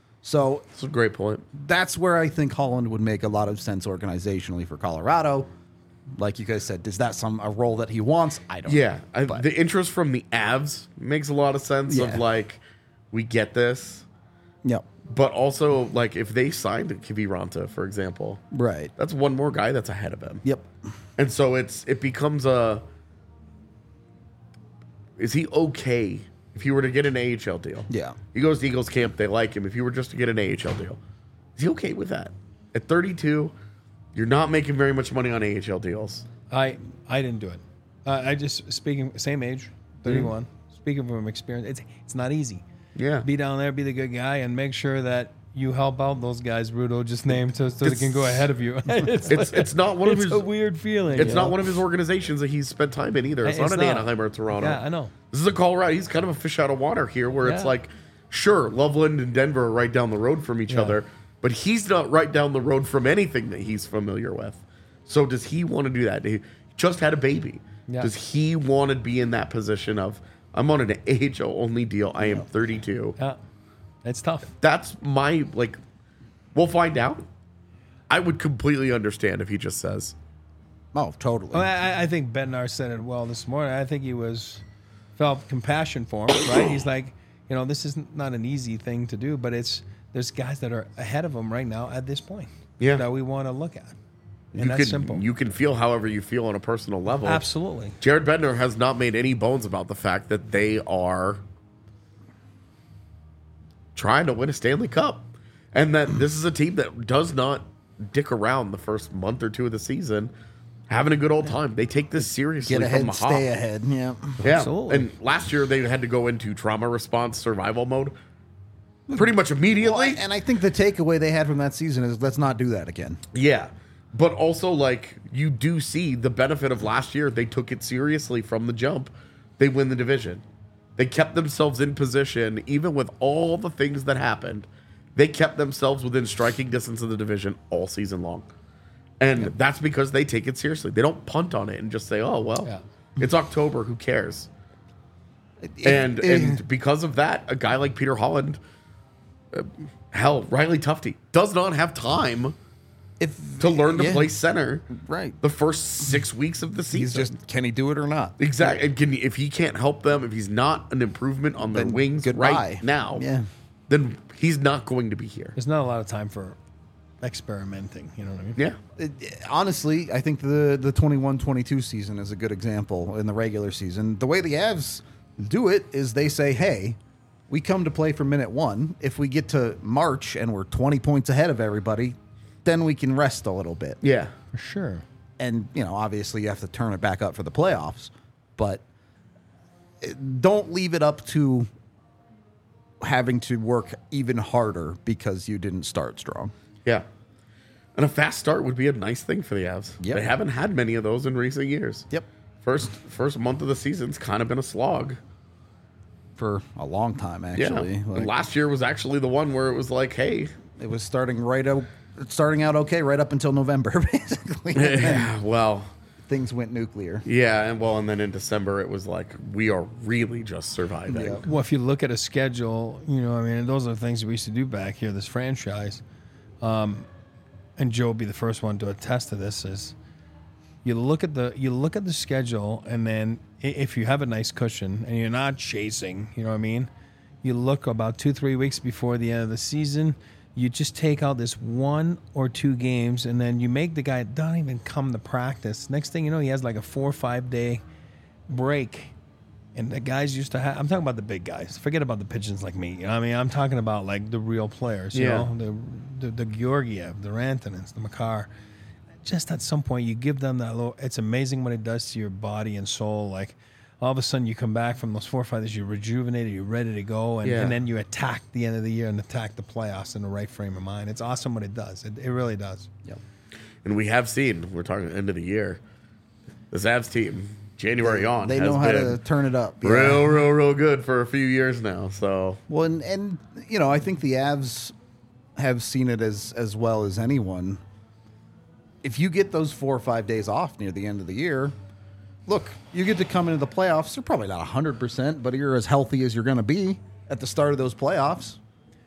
So That's a great point. that's where I think Holland would make a lot of sense organizationally for Colorado. Like you guys said, is that some a role that he wants? I don't Yeah. know. I, But- the interest from the Avs makes a lot of sense Yeah. of like, we get this. Yep. But also, like, if they signed Kiviranta, for example, Right. that's one more guy that's ahead of him. Yep. And so it's it becomes a is he okay if he were to get an A H L deal? Yeah. He goes to Eagles camp, they like him. If he were just to get an A H L deal, is he okay with that? At thirty-two, you're not making very much money on A H L deals. I I didn't do it. Uh, I just speaking same age, thirty-one. Mm. Speaking from experience, it's it's not easy. Yeah. Be down there, be the good guy, and make sure that you help out those guys Rudo just named so, so they It's- can go ahead of you. it's It's it's not one of it's his a weird feeling. it's you not know? one of his organizations that he's spent time in either. It's, It's not an not. Anaheim or Toronto. Yeah, I know. This is a Colorado. He's kind of a fish out of water here, where it's Yeah. like, sure, Loveland and Denver are right down the road from each Yeah. other, but he's not right down the road from anything that he's familiar with. So does he want to do that? He just had a baby. Yeah. Does he want to be in that position of, I'm on an A H L only deal. I am thirty-two. Yeah, it's tough. That's my, like, we'll find out. I would completely understand if he just says, Oh, totally. Well, I, I think Bednar said it well this morning. I think he was felt compassion for him, right? He's like, you know, this is not an easy thing to do, but it's there's guys that are ahead of him right now at this point. Yeah. That we want to look at, and you that's can, simple. you can feel however you feel on a personal level. Absolutely. Jared Bednar has not made any bones about the fact that they are trying to win a Stanley Cup. And that this is a team that does not dick around the first month or two of the season, having a good old time. They take this seriously Get ahead, from the hop. stay ahead. Yeah. Yeah. Absolutely. And last year they had to go into trauma response survival mode pretty much immediately. Well, and I think the takeaway they had from that season is let's not do that again. Yeah. But also, like, you do see the benefit of last year. They took it seriously from the jump. They win the division. They kept themselves in position, even with all the things that happened. They kept themselves within striking distance of the division all season long. And Yep. that's because they take it seriously. They don't punt on it and just say, oh, well, Yeah. it's October. Who cares? It- And it- and because of that, a guy like Peter Holland, uh, hell, Riley Tufte, does not have time if to learn to yeah, play center right, the first six weeks of the season. he's just can he do it or not? exactly. And can he, if he can't help them, if he's not an improvement on their Then wings goodbye. right now, Yeah. then he's not going to be here. There's not a lot of time for experimenting. You know what I mean? Yeah, It- honestly, I think the the twenty-one twenty-two season is a good example in the regular season. The way the Avs do it is they say, "Hey, we come to play for minute one. If we get to March and we're twenty points ahead of everybody, then we can rest a little bit." yeah. For sure. And, you know, obviously you have to turn it back up for the playoffs, but it- don't leave it up to having to work even harder because you didn't start strong. Yeah. And a fast start would be a nice thing for the Avs. Yep. They haven't had many of those in recent years. Yep. First first month of the season's kind of been a slog. For a long time, Yeah. actually. And Like, last year was actually the one where it was like, hey, it was starting right out, starting out okay right up until November, basically. And then yeah, well, things went nuclear. yeah, and well, and then in December it was like we are really just surviving. Yeah. Well, if you look at a schedule, you know, I mean, those are the things we used to do back here, this franchise. Um, and Joe will be the first one to attest to this, is you look at the you look at the schedule, and then i- if you have a nice cushion and you're not chasing, you know what I mean? You look about two, three weeks before the end of the season, you just take out this one or two games, and then you make the guy don't even come to practice. Next thing you know, he has like a four or five day break. And the guys used to have, I'm talking about the big guys. Forget about the pigeons like me. You know what I mean? I'm talking about like the real players, you Yeah. know, the, the, the Georgiev, the Rantanens, the Makar. Just at some point, you give them that little, it's amazing what it does to your body and soul. Like all of a sudden you come back from those four or five days, you're rejuvenated, you're ready to go. And, Yeah. and then you attack the end of the year and attack the playoffs in the right frame of mind. It's awesome what it does. It, it really does. Yep. And we have seen, we're talking end of the year, the Avs team, January on, They has know how been to turn it up. yeah. real, real, real good for a few years now. So, Well, and, and you know, I think the Avs have seen it as as well as anyone. If you get those four or five days off near the end of the year, look, you get to come into the playoffs. You're probably not one hundred percent, but you're as healthy as you're going to be at the start of those playoffs.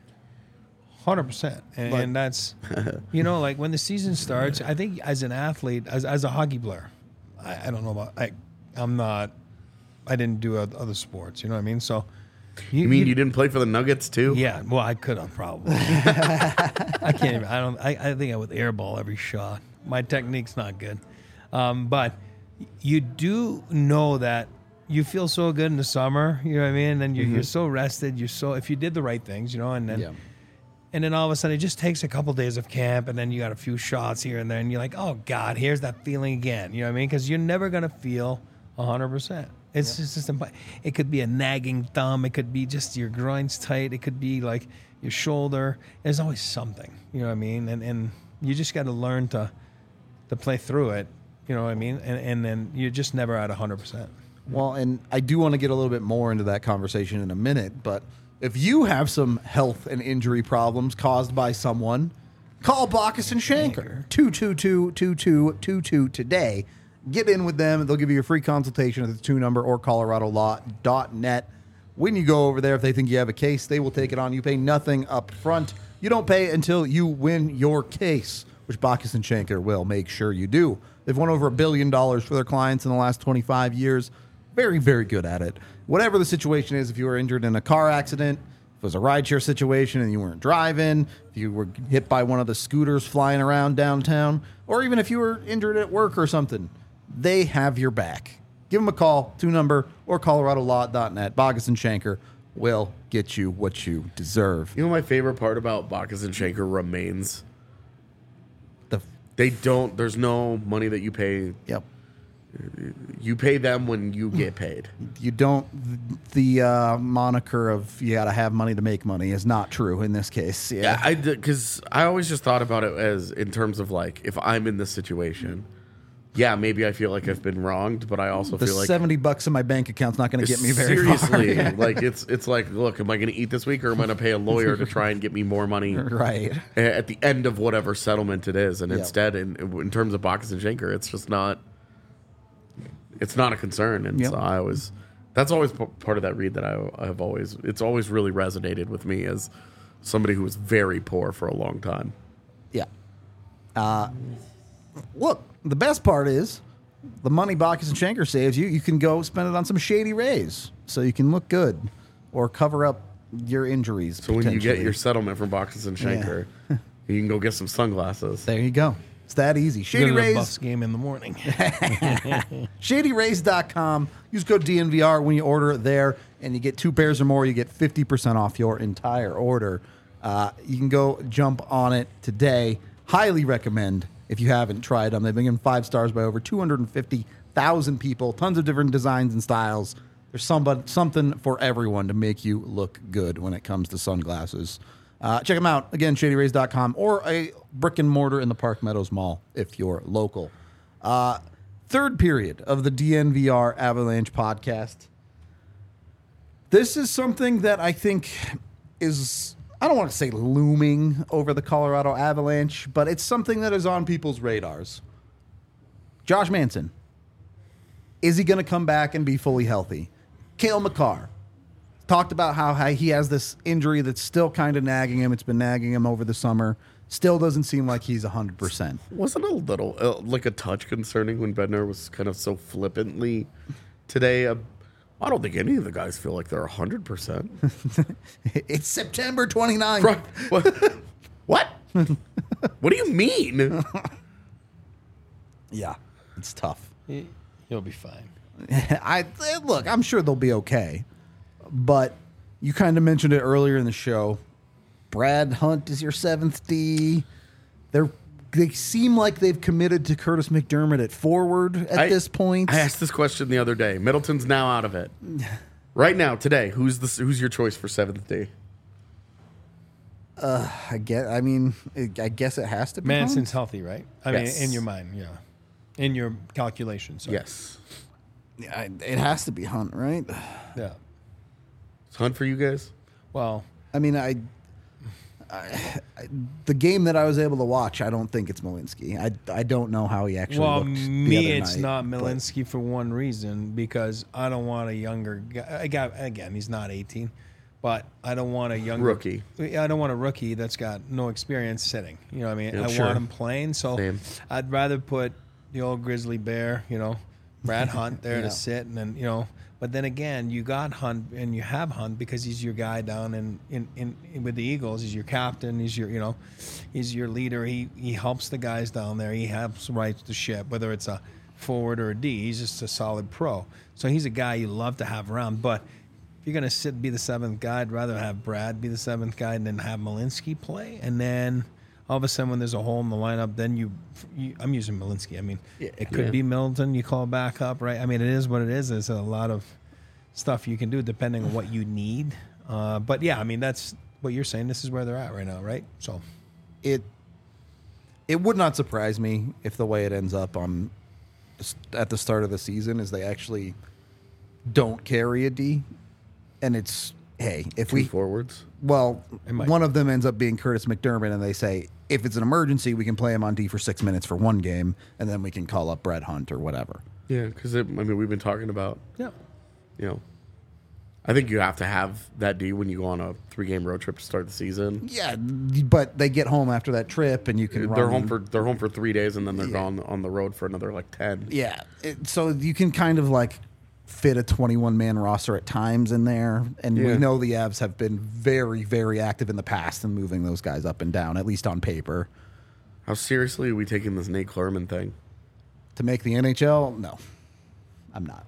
Hundred percent, and, But- and that's, you know, like when the season starts. I think as an athlete, as as a hockey player, I, I don't know about. I, I'm not. I didn't do oth- other sports. You know what I mean? So, you mean you didn't play for the Nuggets too? Yeah. Well, I could have probably. I can't even. I don't. I, I think I would airball every shot. My technique's not good, um, but you do know that you feel so good in the summer. You know what I mean? And you're, you're so rested. You're so if you did the right things, you know, and then. Yeah. And then all of a sudden, it just takes a couple days of camp, and then you got a few shots here and there, and you're like, "Oh God, here's that feeling again." You know what I mean? Because you're never gonna feel hundred percent. It's just, just imp- it could be a nagging thumb, it could be just your groins tight, it could be like your shoulder. There's always something. You know what I mean? And and you just got to learn to to play through it. You know what I mean? And and then you're just never at hundred percent. Well, and I do want to get a little bit more into that conversation in a minute, but if you have some health and injury problems caused by someone, Call Bacchus and Shanker. two two two, two two two two today. Get in with them. They'll give you a free consultation at the two number or colorado law dot net. When you go over there, if they think you have a case, they will take it on. You pay nothing up front. You don't pay until you win your case, which Bacchus and Shanker will make sure you do. They've won over a billion dollars for their clients in the last twenty-five years. Very, very good at it. Whatever the situation is, if you were injured in a car accident, if it was a rideshare situation and you weren't driving, if you were hit by one of the scooters flying around downtown, or even if you were injured at work or something, they have your back. Give them a call, two number, or colorado law dot net. Bacchus and Shanker will get you what you deserve. You know, my favorite part about Bacchus and Shanker remains The they don't. There's no money that you pay. Yep. You pay them when you get paid. You don't, the uh, moniker of you got to have money to make money is not true in this case. Yeah. Yeah, I because I always just thought about it as in terms of like if I'm in this situation, yeah, maybe I feel like I've been wronged, but I also The feel like seventy bucks in my bank account's not going to get me very seriously, far. like it's it's like, look, am I going to eat this week or am I going to pay a lawyer to try and get me more money Right. at the end of whatever settlement it is? And Yep. instead, in in terms of Bacchus and Shanker, it's just not. It's not a concern, and Yep. so I always. That's always p- part of that read that I I have always. It's always really resonated with me as somebody who was very poor for a long time. Yeah. Uh, look, the best part is the money Bacchus and Shanker saves you, you can go spend it on some Shady Rays so you can look good or cover up your injuries. So when you get potentially. your settlement from Bacchus and Shanker, you can go get some sunglasses. There you go. It's that easy. Shady Go to the Rays. Buffs game in the morning. shady rays dot com. Use code D N V R when you order there, and you get two pairs or more. You get fifty percent off your entire order. Uh, you can go jump on it today. Highly recommend if you haven't tried them. They've been given five stars by over two hundred fifty thousand people. Tons of different designs and styles. There's somebody, something for everyone to make you look good when it comes to sunglasses. Uh, check them out. Again, shady rays dot com or a brick and mortar in the Park Meadows Mall if you're local. Uh, third period of the D N V R Avalanche podcast. This is something that I think is, I don't want to say looming over the Colorado Avalanche, but it's something that is on people's radars. Josh Manson. Is he going to come back and be fully healthy? Cale Makar talked about how he has this injury that's still kind of nagging him. It's been nagging him over the summer. Still doesn't seem like he's one hundred percent. Wasn't a little, uh, like a touch concerning when Bednar was kind of so flippantly today. Uh, I don't think any of the guys feel like they're one hundred percent. It's September twenty-ninth. Right. What? What? What do you mean? Yeah, it's tough. You'll be fine. I Look, I'm sure they'll be okay. But you kind of mentioned it earlier in the show. Brad Hunt is your seventh D. They're they seem like they've committed to Curtis McDermott at forward at I- this point. I asked this question the other day. Middleton's now out of it. Right now, today, who's the who's your choice for seventh D? I get. I mean, I guess it has to be. Manson's Hunt. healthy, right? I Yes. mean, in your mind, yeah. In your calculations. sorry. Yes. Yeah, I- it has to be Hunt, right? Yeah. Is Hunt for you guys? Well, I mean, I, I, I- the game that I was able to watch, I don't think it's Malinsky. I, I don't know how he actually well, looked. the me, other it's night, not but- Malinsky for one reason, because I don't want a younger guy. I got, again, he's not eighteen, but I don't want a younger Rookie. I don't want a rookie that's got no experience sitting. You know what I mean? Yeah, I sure. want him playing. So Same. I'd rather put the old grizzly bear, you know, Brad Hunt there Yeah. to sit, and then, you know. But then again, you got Hunt, and you have Hunt because he's your guy down in, in, in, in with the Eagles. He's your captain. He's your, you know, he's your leader. He he helps the guys down there. He helps right the ship, whether it's a forward or a D. He's just a solid pro. So he's a guy you love to have around. But if you're gonna sit be the seventh guy, I'd rather have Brad be the seventh guy and then have Malinsky play. And then all of a sudden, when there's a hole in the lineup, then you, you I'm using Malinsky. I mean, it could Yeah. be Middleton. You call back up, right? I mean, it is what it is. There's a lot of stuff you can do depending on what you need. Uh, but yeah, I mean, that's what you're saying. This is where they're at right now, right? So it it would not surprise me if the way it ends up on at the start of the season is they actually don't carry a D, and it's hey, if Two we forwards. well, might. one of them ends up being Curtis McDermott, and they say if it's an emergency, we can play him on D for six minutes for one game, and then we can call up Brett Hunt or whatever. Yeah, because I mean, we've been talking about, Yeah. you know, I think you have to have that D when you go on a three-game road trip to start the season. Yeah, but they get home after that trip, and you can They're run, home for they're home for three days, and then they're Yeah. gone on the road for another like ten. yeah. It, so you can kind of like fit a twenty-one man roster at times in there, and Yeah. we know the Avs have been very, very active in the past in moving those guys up and down, at least on paper. How seriously are we taking this Nate Klerman thing? To make the N H L, no, I'm not.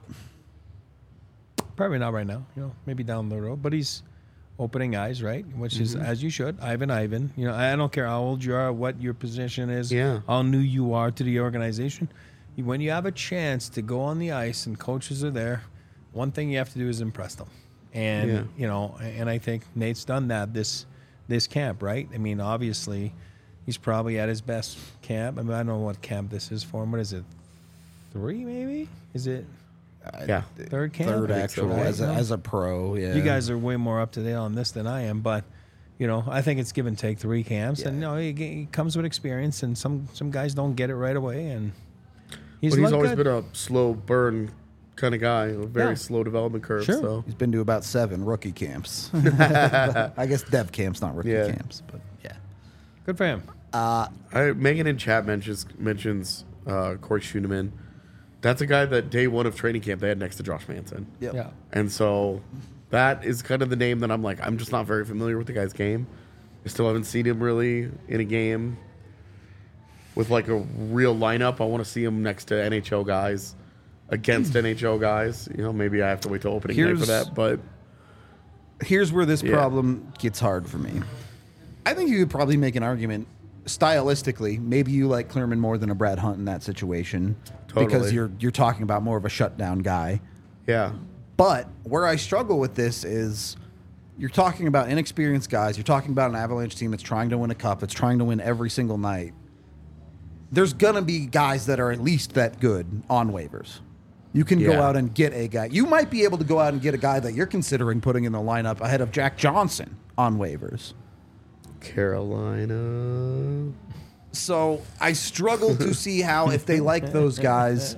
Probably not right now. You know, maybe down the road. But he's opening eyes, right? Which is as you should. Ivan, Ivan. You know, I don't care how old you are, what your position is, Yeah. how new you are to the organization. When you have a chance to go on the ice and coaches are there, one thing you have to do is impress them. And Yeah. you know, and I think Nate's done that this this camp, right? I mean, obviously, he's probably at his best camp. I mean, I don't know what camp this is for him. What is it? Three, maybe? Is it Yeah, third camp? Third so, actual right? as a, No. as a pro. Yeah, You guys are way more up to date on this than I am, but you know, I think it's give and take three camps, and you know, it, it comes with experience, and some some guys don't get it right away, and he's, but he's looked always good. been a slow burn kind of guy, a very Yeah. slow development curve. Sure. So He's been to about seven rookie camps. I guess dev camps, not rookie Yeah. camps, but yeah. Good for him. I, Megan in chat mentions mentions uh, Corey Schooneman. That's a guy that day one of training camp they had next to Josh Manson. Yep. Yeah, And so that is kind of the name that I'm like, I'm just not very familiar with the guy's game. I still haven't seen him really in a game with like a real lineup. I want to see him next to N H L guys, against N H L guys. You know, maybe I have to wait till opening night for Here's- that. But Here's where this Yeah. problem gets hard for me. I think you could probably make an argument stylistically. Maybe you like Clerman more than a Brad Hunt in that situation because Totally. you're you're talking about more of a shutdown guy. yeah, But where I struggle with this is you're talking about inexperienced guys. You're talking about an Avalanche team that's trying to win a cup, that's trying to win every single night. There's going to be guys that are at least that good on waivers. You can go Yeah. out and get a guy. You might be able to go out and get a guy that you're considering putting in the lineup ahead of Jack Johnson on waivers. Carolina. So I struggle to see how, if they like those guys,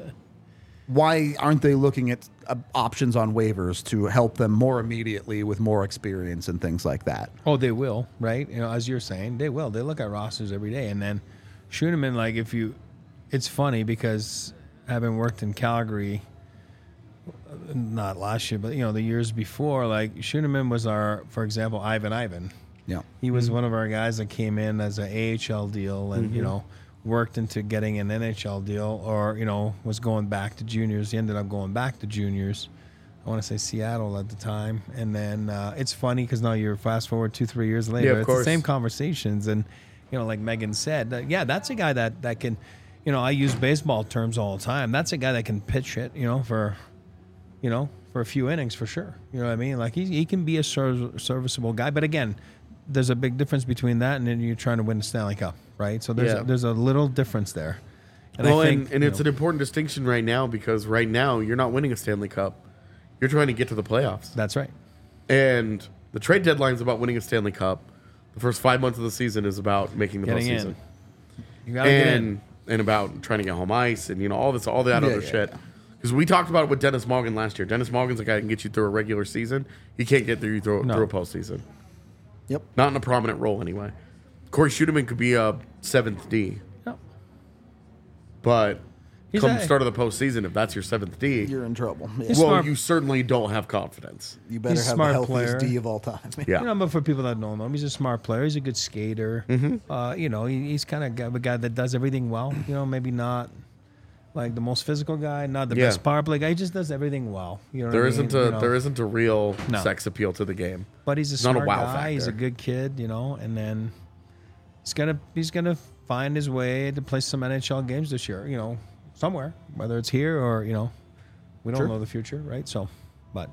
why aren't they looking at uh, options on waivers to help them more immediately with more experience and things like that? oh, they will, right? You know, as you're saying, they will. They look at rosters every day, and then shoot them in. Like if you, it's funny because having worked in Calgary, not last year, but you know the years before, like Schooneman was our, for example, Ivan Ivan. Yeah. He was one of our guys that came in as an A H L deal and, you know, worked into getting an N H L deal or, you know, was going back to juniors. He ended up going back to juniors. I want to say Seattle at the time. And then uh, it's funny because now you're fast forward two, three years later. Yeah, of it's course. the same conversations. And, you know, like Megan said, uh, yeah, that's a guy that, that can, you know, I use baseball terms all the time. That's a guy that can pitch it, you know, for, you know, for a few innings for sure. You know what I mean? Like he, he can be a serv- serviceable guy. But again, there's a big difference between that and then you're trying to win the Stanley Cup, right? So there's Yeah. a, there's a little difference there. And well, I think, and, and you it's know, an important distinction right now because right now you're not winning a Stanley Cup. You're trying to get to the playoffs. that's right. And the trade deadline is about winning a Stanley Cup. The first five months of the season is about making the Getting postseason. in. You gotta get in. And and about trying to get home ice and you know all this all that Yeah, other yeah, shit. yeah. Because we talked about it with Dennis Morgan last year. Dennis Morgan's a guy that can get you through a regular season. He can't get through you through, No. through a postseason. Yep. Not in a prominent role anyway. Corey Schooneman could be a seventh D, No. but He's come a- start of the postseason, if that's your seventh D, You're in trouble. Yeah. He's well, smart. you certainly don't have confidence. You better he's a have smart the healthiest player. D of all time. Yeah. You know, but for people that don't know him, he's a smart player. He's a good skater. Mm-hmm. Uh, you know, he, he's kind of a guy that does everything well. You know, maybe not like the most physical guy, not the Yeah. best power play guy. He just does everything well. You know, There what I isn't mean? a You know, there isn't a real No. sex appeal to the game. But he's a not a smart wow guy. He's a factor. good kid. You know, and then he's gonna he's gonna find his way to play some N H L games this year. You know, somewhere, whether it's here or you know, we don't Sure. know the future, right? So, but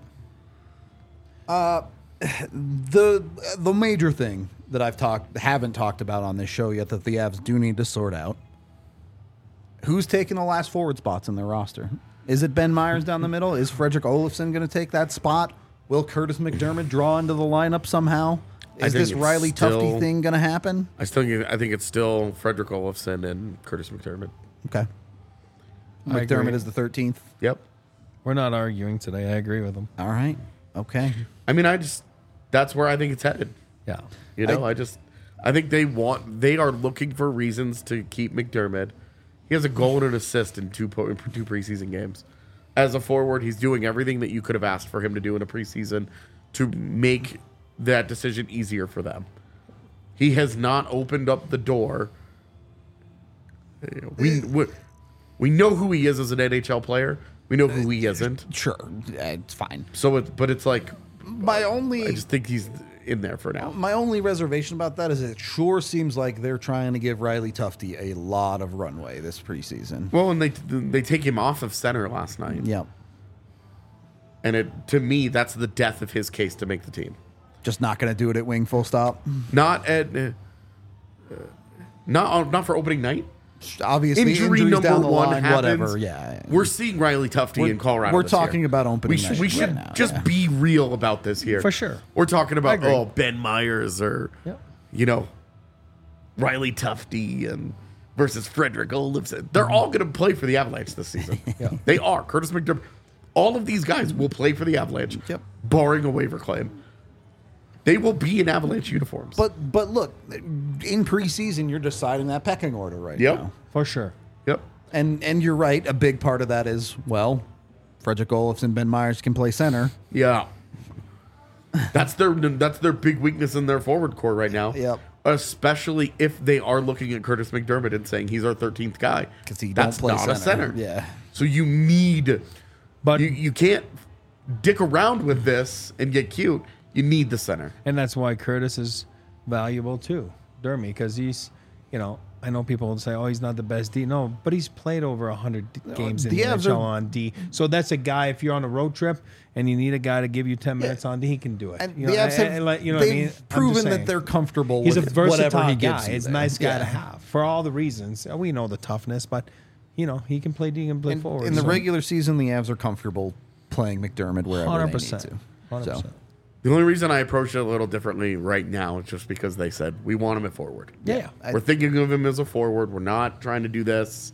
the the major thing that I've talked haven't talked about on this show yet that the Avs do need to sort out. Who's taking the last forward spots in their roster? Is it Ben Myers down the middle? Is Frederick Olofsson going to take that spot? Will Curtis McDermott draw into the lineup somehow? I Is think this it's Riley still- Tufte thing going to happen? I still think, I think it's still Frederick Olofsson and Curtis McDermott. Okay. I agree. McDermott is the thirteenth. Yep. We're not arguing today. I agree with him. All right. Okay. I mean, I just that's where I think it's headed. Yeah. You know, I, I just I think they want they are looking for reasons to keep McDermott. He has a goal and an assist in two po- in two preseason games. As a forward, he's doing everything that you could have asked for him to do in a preseason to make that decision easier for them. He has not opened up the door. We we, we know who he is as an N H L player. We know who he isn't. Sure. It's fine. So, it, but it's like My only I just think he's in there for now. my only reservation about that is it sure seems like they're trying to give Riley Tufte a lot of runway this preseason. Well, and they they take him off of center last night. Yep. And it to me, that's the death of his case to make the team. Just not going to do it at wing full stop. Not at, uh, not not for opening night. Obviously, Injury injuries number down the one line, happens. whatever. Yeah. We're seeing Riley Tufte We're- in Colorado. we're this talking year. about opening We should, night we right should now, just yeah. be real about this here. For sure. We're talking I about agree. oh Ben Myers or Yep. you know Riley Tufte and versus Frederick Olofsson. They're all going to play for the Avalanche this season. Yeah. They are. Curtis McDermott. All of these guys will play for the Avalanche, Yep. barring a waiver claim. They will be in Avalanche uniforms. But but look, in preseason, you're deciding that pecking order right Yep. now. For sure. yep. And and you're right. A big part of that is well, Frederick Olofsson, Ben Myers can play center. Yeah. That's their that's their big weakness in their forward core right now. Yep. Especially if they are looking at Curtis McDermott and saying he's our thirteenth guy. 'Cause he That's don't play not center. a center. Yeah. So you need But you, you can't dick around with this and get cute. You need the center. and that's why Curtis is valuable too, Dermy, because he's, you know, I know people will say, "Oh, he's not the best D." No, but he's played over a hundred games in the the N Avs H L are- on D. So that's a guy. If you're on a road trip and you need a guy to give you ten minutes on D, he can do it. And You the know, Avs have and- and like, you know they've what I mean? I'm just proven that saying. they're comfortable He's a with whatever versatile he guy. gives you It's a there. nice guy to Yeah. have for all the reasons. We know the toughness, but you know he can play D and play In, forward. in the so. regular season, the Avs are comfortable playing McDermott wherever hundred they percent, need to. hundred So, percent. The only reason I approached it a little differently right now is just because they said we want him at forward. Yeah, yeah. I- We're thinking of him as a forward. We're not trying to do this.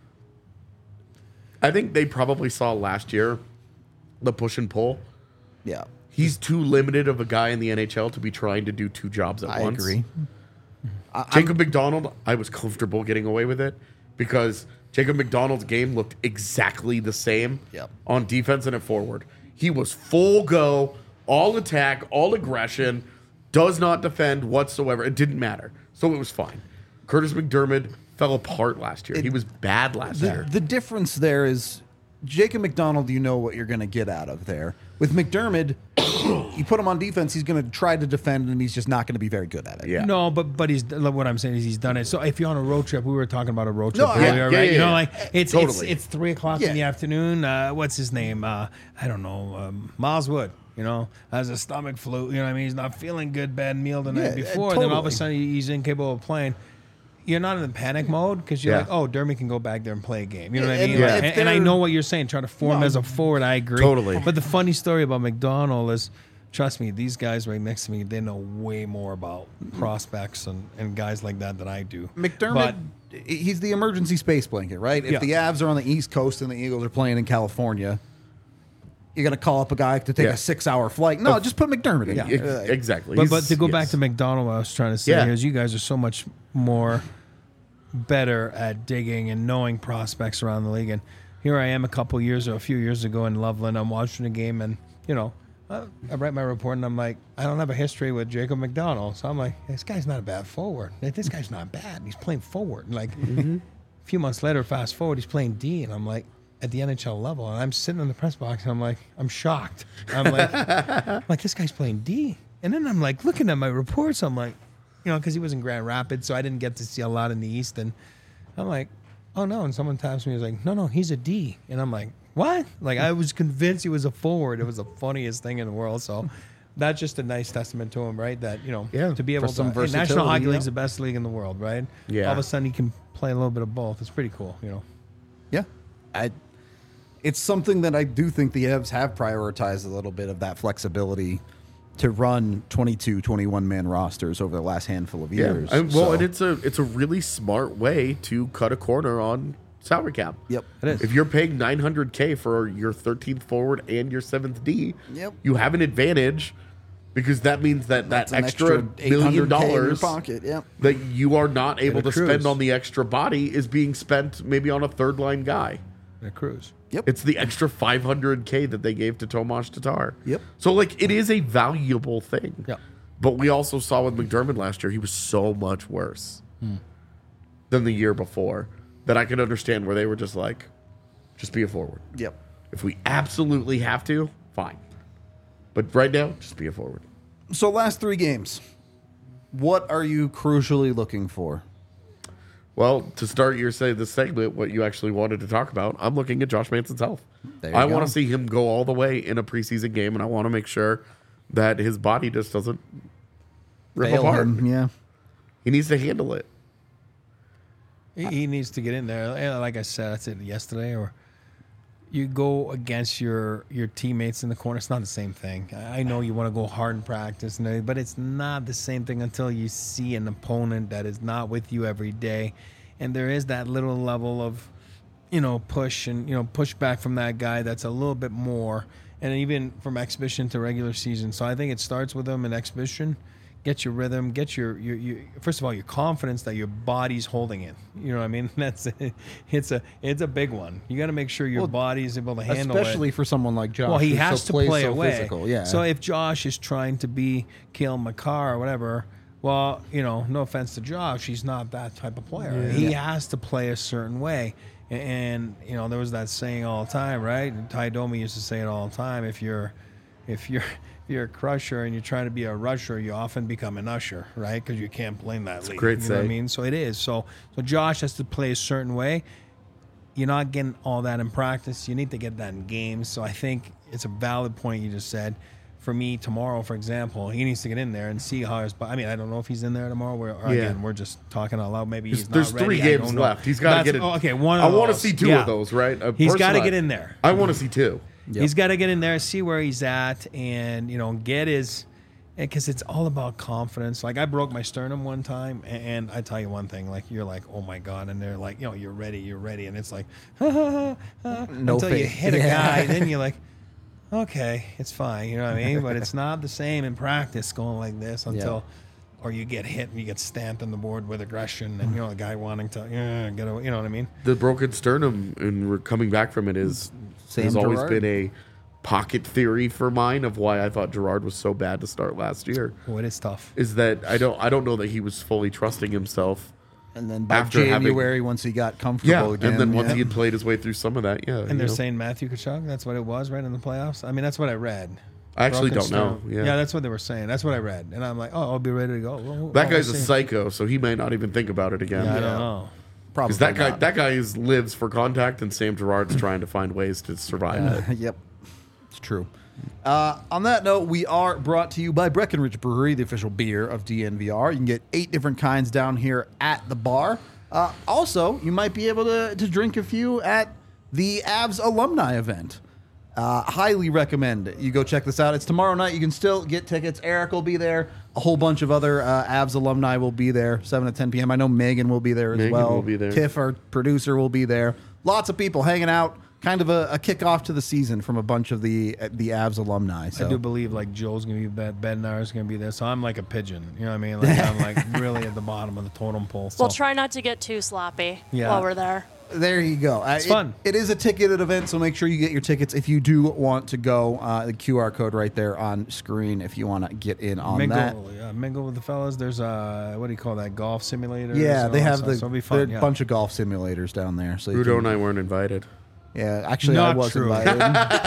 I think they probably saw last year the push and pull. yeah, He's too limited of a guy in the N H L to be trying to do two jobs at I once. agree. I- Jacob McDonald, I was comfortable getting away with it because Jacob McDonald's game looked exactly the same Yep. on defense and at forward. He was full go, all attack, all aggression, does not defend whatsoever. It didn't matter. So it was fine. Curtis McDermott fell apart last year. It- he was bad last The, year. the difference there is Jacob McDonald, you know what you're going to get out of there. With McDermott, you put him on defense, he's going to try to defend, and he's just not going to be very good at it. Yeah. No, but but he's look, what I'm saying is he's done it. So if you're on a road trip, we were talking about a road trip No, earlier, yeah, right? yeah, you yeah, know, yeah. like it's Totally. it's it's three o'clock Yeah. in the afternoon. Uh, what's his name? Uh, I don't know. Um, Miles Wood. You know, has a stomach flu. You know what I mean? He's not feeling good. Bad meal the night Yeah, uh, before. And then all of a totally. sudden he's incapable of playing. You're not in the panic mode because you're Yeah. like, oh, Dermy can go back there and play a game. You know what I And- mean? Yeah. Like, if and, and I they're- know what you're saying. Trying to form No. as a forward, I agree. Totally. But the funny story about McDonald is, trust me, these guys right next to me, they know way more about prospects and, and guys like that than I do. McDermott, he's the emergency space blanket, right? If Yeah. the Avs are on the East Coast and the Eagles are playing in California, you're going to call up a guy to take Yeah. a six-hour flight. No, just put McDermott in. Yeah. Ex- Uh, exactly. But, but He's- to go yes. back to McDonald, what I was trying to say Yeah. is you guys are so much more better at digging and knowing prospects around the league. And here I am a couple years or a few years ago in Loveland. I'm watching a game and, you know, I, I write my report and I'm like, I don't have a history with Jacob McDonald. So I'm like, this guy's not a bad forward. Like, this guy's not bad. He's playing forward. And like a few months later, fast forward, he's playing D. And I'm like, at the N H L level. And I'm sitting in the press box and I'm like, I'm shocked. I'm like, I'm like, this guy's playing D. And then I'm like looking at my reports. I'm like, you know, because he was in Grand Rapids, so I didn't get to see a lot in the East. And I'm like, oh no. And someone taps me, he was like, no, no, he's a D. And I'm like, what? Like, I was convinced he was a forward. It was the funniest thing in the world. So that's just a nice testament to him, right? That, you know, Yeah, to be able for some to. Hey, National versatility, Hockey yeah. League's the best league in the world, right? Yeah. All of a sudden he can play a little bit of both. It's pretty cool, you know. Yeah. I, it's something that I do think the Avs have prioritized a little bit of that flexibility to run twenty-two, twenty-one man rosters over the last handful of years. Yeah. And, well, So- and it's a it's a really smart way to cut a corner on salary cap. Yep. It is. If you're paying nine hundred K for your thirteenth forward and your seventh D, Yep. you have an advantage because that means that that That's an extra, extra million eight hundred K in your dollars pocket. Yep. that you are not able to accrues. spend on the extra body is being spent maybe on a third line guy. A cruise. Yep. It's the extra five hundred K that they gave to Tomas Tatar. Yep. So, like, it is a valuable thing. Yep. But we also saw with McDermott last year, he was so much worse than the year before that I can understand where they were just like, just be a forward. Yep. If we absolutely have to, fine. But right now, just be a forward. So last three games, what are you crucially looking for? Well, to start your say this segment, what you actually wanted to talk about, I'm looking at Josh Manson's health. There you I go. want to see him go all the way in a preseason game, and I want to make sure that his body just doesn't rip Fail apart. him, yeah. He needs to handle it. He, he needs to get in there. And like I said, I said yesterday, or you go against your your teammates in the corner. It's not the same thing. I know you want to go hard in practice, and everything, but it's not the same thing until you see an opponent that is not with you every day, and there is that little level of, you know, push and you know push back from that guy that's a little bit more, and even from exhibition to regular season. So I think it starts with them in exhibition. Get your rhythm, get your, your, your first of all, your confidence that your body's holding it. You know what I mean? That's it's a it's a big one. You got to make sure your Well, body's able to handle Especially it. for someone like Josh. Well, he who has so to plays play so away. Physical. Yeah. So if Josh is trying to be Kale McCarr or whatever, well, you know, no offense to Josh, he's not that type of player. He has to play a certain way. And, you know, there was that saying all the time, right? And Ty Domi used to say it all the time. If you're if you're if you're a crusher and you're trying to be a rusher, you often become an usher, right? Because you can't play in that league. great you know what I say. mean? So it is. So so Josh has to play a certain way. You're not getting all that in practice. You need to get that in games. So I think it's a valid point you just said. For me, tomorrow, for example, he needs to get in there and see how his. I mean, I don't know if he's in there tomorrow. We're, or Yeah. Again, we're just talking out loud. Maybe he's There's not three ready. I games don't know. left. He's got to That's- get it. oh, okay, one. Of I want to those. see two Yeah. of those, right? Uh, He's got to personally, get in there. I want to see two. Yep. He's got to get in there, see where he's at, and you know, get his. Because it's all about confidence. Like I broke my sternum one time, and I tell you one thing: like you're like, oh my god, and they're like, you know, you're ready, you're ready, and it's like, ha, ha, ha, ha, No until you faith. hit a Yeah. guy, then you're like, okay, it's fine, you know what I mean? But it's not the same in practice going like this until, or you get hit and you get stamped on the board with aggression, and you know the guy wanting to, yeah, get away, you know what I mean? The broken sternum and re- coming back from it is Sam has always Girard. been a pocket theory for mine of why I thought Gerard was so bad to start last year. Oh, it is tough. Is that I don't I don't know that he was fully trusting himself. and then by after having- January, once he got comfortable Yeah, again. and then once yeah. he had played his way through some of that, yeah. And you they're know. saying Matthew Kachuk, that's what it was, right, in the playoffs? I mean, that's what I read. I actually Broken don't know. sternum. Yeah. that's what they were saying. That's what I read. And I'm like, oh, I'll be ready to go. Well, that well, guy's a we'll see. psycho, so he may not even think about it again. Yeah, I Yeah. don't know. Probably Because that guy, not. that guy is, lives for contact, and Sam Gerard's trying to find ways to survive it. Yep, it's true. Uh, on that note, we are brought to you by Breckenridge Brewery, the official beer of D N V R. You can get eight different kinds down here at the bar. Uh, also, you might be able to, to drink a few at the Avs alumni event. Uh, highly recommend it. You go check this out. It's tomorrow night. You can still get tickets. Eric will be there. A whole bunch of other uh, Avs alumni will be there, seven to ten p.m. I know Megan will be there as Megan well. will be there. Tiff, our producer, will be there. Lots of people hanging out. Kind of a, a kickoff to the season from a bunch of the the Avs alumni. So. I do believe like Joe's gonna be there, Bednar's gonna be there, so I'm like a pigeon. You know what I mean? Like I'm like really at the bottom of the totem pole. So. We'll try not to get too sloppy Yeah. while we're there. There you go. Uh, It's it- fun. It is a ticketed event, so make sure you get your tickets if you do want to go. Uh, the Q R code right there on screen if you want to get in on mingle, that. yeah, mingle with the fellas. There's uh, what do you call that? Golf simulator. Yeah, they have the so it'll be there are fun. a Yeah. bunch of golf simulators down there. So you Rudo can- and I weren't invited. yeah, actually, I Not was true. invited.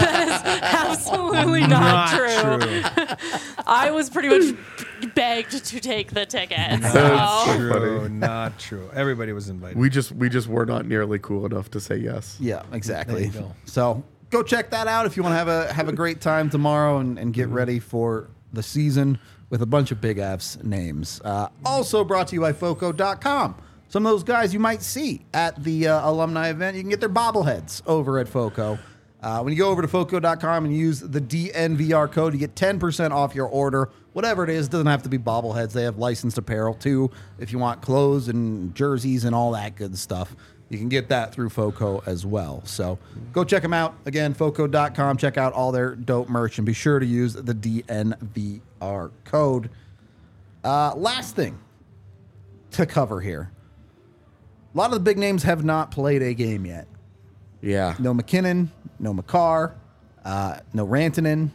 Absolutely not, true. I was pretty much begged to take the ticket. That's So. true. True, not true. Everybody was invited. We just we just were not nearly cool enough to say yes. Yeah, exactly. There you go. So go check that out if you want to have a have a great time tomorrow and, and Mm-hmm. get ready for the season with a bunch of Big Avs names. Uh, also brought to you by Foco dot com. Some of those guys you might see at the uh, alumni event, you can get their bobbleheads over at Foco. Uh, when you go over to foco dot com and use the D N V R code, you get ten percent off your order. Whatever it is, doesn't have to be bobbleheads. They have licensed apparel too. If you want clothes and jerseys and all that good stuff, you can get that through Foco as well. So go check them out. Again, foco dot com. Check out all their dope merch and be sure to use the D N V R code. Uh, last thing to cover here. A lot of the big names have not played a game yet. Yeah. No McKinnon, no McCarr, uh, no Rantanen.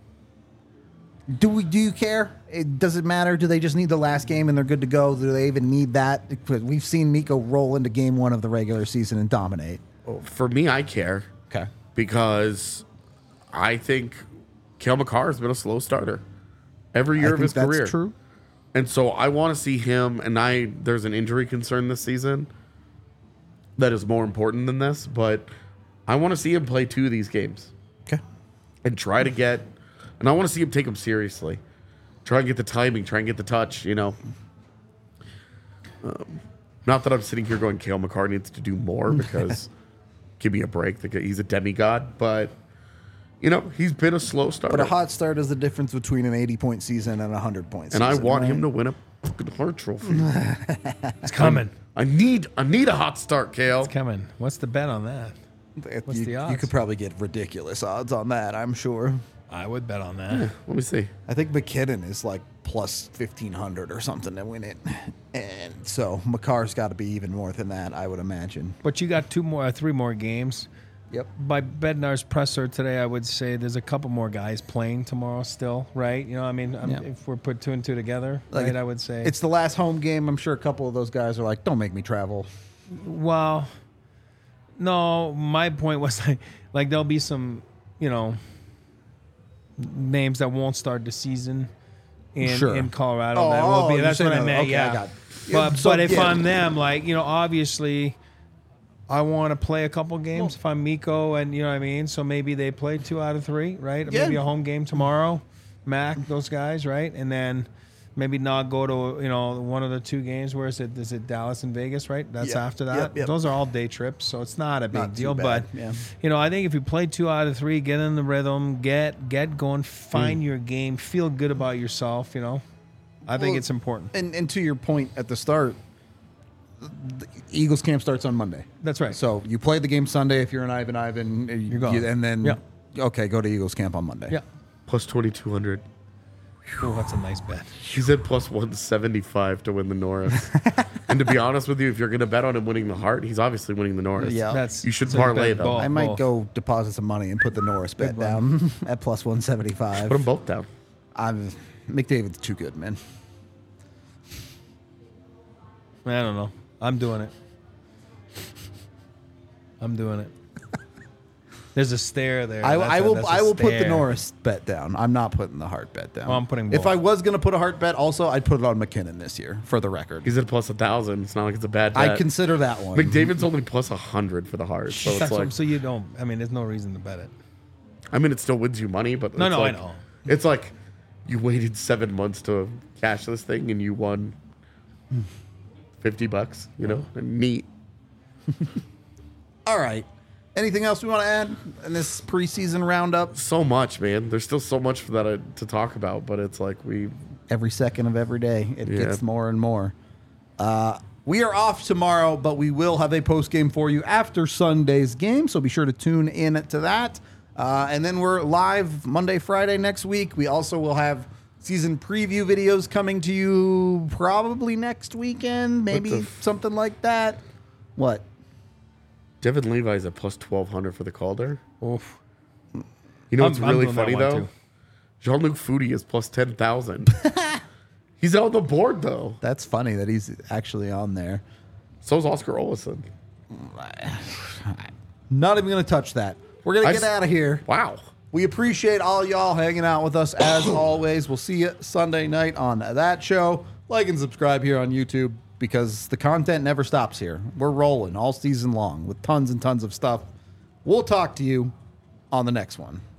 Do we? Do you care? It does it matter? Do they just need the last game and they're good to go? Do they even need that? Because we've seen Mikko roll into game one of the regular season and dominate. For me, I care. Okay. Because I think Cale Makar has been a slow starter every year I of think his that's career. true. And so I want to see him, and I there's an injury concern this season that is more important than this, but I want to see him play two of these games Okay. and try to get, and I want to see him take them seriously. Try and get the timing, try and get the touch, you know. Um, not that I'm sitting here going, Cale Makar needs to do more because give me a break. He's a demigod, but, you know, he's been a slow starter. But a hot start is the difference between an eighty-point season and a hundred-point season. and I want right? him to win a fucking Hart Trophy. It's coming. I need I need a hot start, Cale. It's coming. What's the bet on that? What's you, the You odds? could probably get ridiculous odds on that, I'm sure. I would bet on that. Let me see. I think McKinnon is like plus fifteen hundred or something to win it. And so McCarr's got to be even more than that, I would imagine. But you got two more, uh, three more games. Yep. By Bednar's presser today, I would say there's a couple more guys playing tomorrow still, right? You know, I mean, I'm, Yeah. if we're put two and two together, Like, right, I would say. It's the last home game. I'm sure a couple of those guys are like, don't make me travel. Well, no, my point was like, like there'll be some, you know, names that won't start the season in, Sure. in Colorado. Oh, that will oh, be. you're That's what saying I that. meant. Okay, yeah. I got- But So, but if yeah. I'm them, like you know, obviously, I want to play a couple games. If I'm Mikko, and you know what I mean, so maybe they play two out of three, right? Yeah. Maybe a home game tomorrow, Mac, those guys, right? And then maybe not go to you know one of the two games. Where is it? Is it Dallas and Vegas? Right. That's Yep, after that. yep, yep. Those are all day trips, so it's not a big Not too deal. bad, But yeah. you know, I think if you play two out of three, get in the rhythm, get get going, find your game, feel good about yourself. You know, I think Well, it's important. And, and to your point at the start, the Eagles camp starts on Monday. That's right. So you play the game Sunday if you're an Ivan Ivan. You're gone. and then, Yeah. okay, go to Eagles camp on Monday. Yeah. Plus twenty-two hundred. Oh, that's a nice bet. He's at plus one seventy-five to win the Norris. And to be honest with you, if you're going to bet on him winning the Hart, he's obviously winning the Norris. Yeah. That's You should it's a parlay good them. ball. I might both. go deposit some money and put the Norris bet one. down at plus one seventy-five. Put them both down. I'm McDavid's too good, man. I don't know. I'm doing it. I'm doing it. There's a stare there. I, That's I a- will. that's a I will put the stare. Norris bet down. I'm not putting the Hart bet down. Well, I'm putting If both. I was going to put a Hart bet, also I'd put it on McKinnon this year for the record. He's at plus a thousand. It's not like it's a bad bet. I consider that one. McDavid's only plus a hundred for the Hart. So it's That's what- like, so you don't. I mean, there's no reason to bet it. I mean, it still wins you money, but No, it's no, I like, know. It's like you waited seven months to cash this thing and you won fifty bucks. You know, neat. All right. Anything else we want to add in this preseason roundup? So much, man. There's still so much for that uh, to talk about, but it's like we Every second of every day, it Yeah. gets more and more. Uh, we are off tomorrow, but we will have a post game for you after Sunday's game, so be sure to tune in to that. Uh, and then we're live Monday, Friday next week. We also will have season preview videos coming to you probably next weekend, maybe the f- something like that. What? Devin Levi's at plus twelve hundred for the Calder. Oof. You know I'm- what's I'm really doing that funny one, though? too. Jean-Luc Foudy is plus ten thousand. He's on the board though. That's funny that he's actually on there. So is Oscar Olesen. Not even going to touch that. We're going I to get s- out of here. Wow. We appreciate all y'all hanging out with us as always. We'll see you Sunday night on that show. Like and subscribe here on YouTube because the content never stops here. We're rolling all season long with tons and tons of stuff. We'll talk to you on the next one.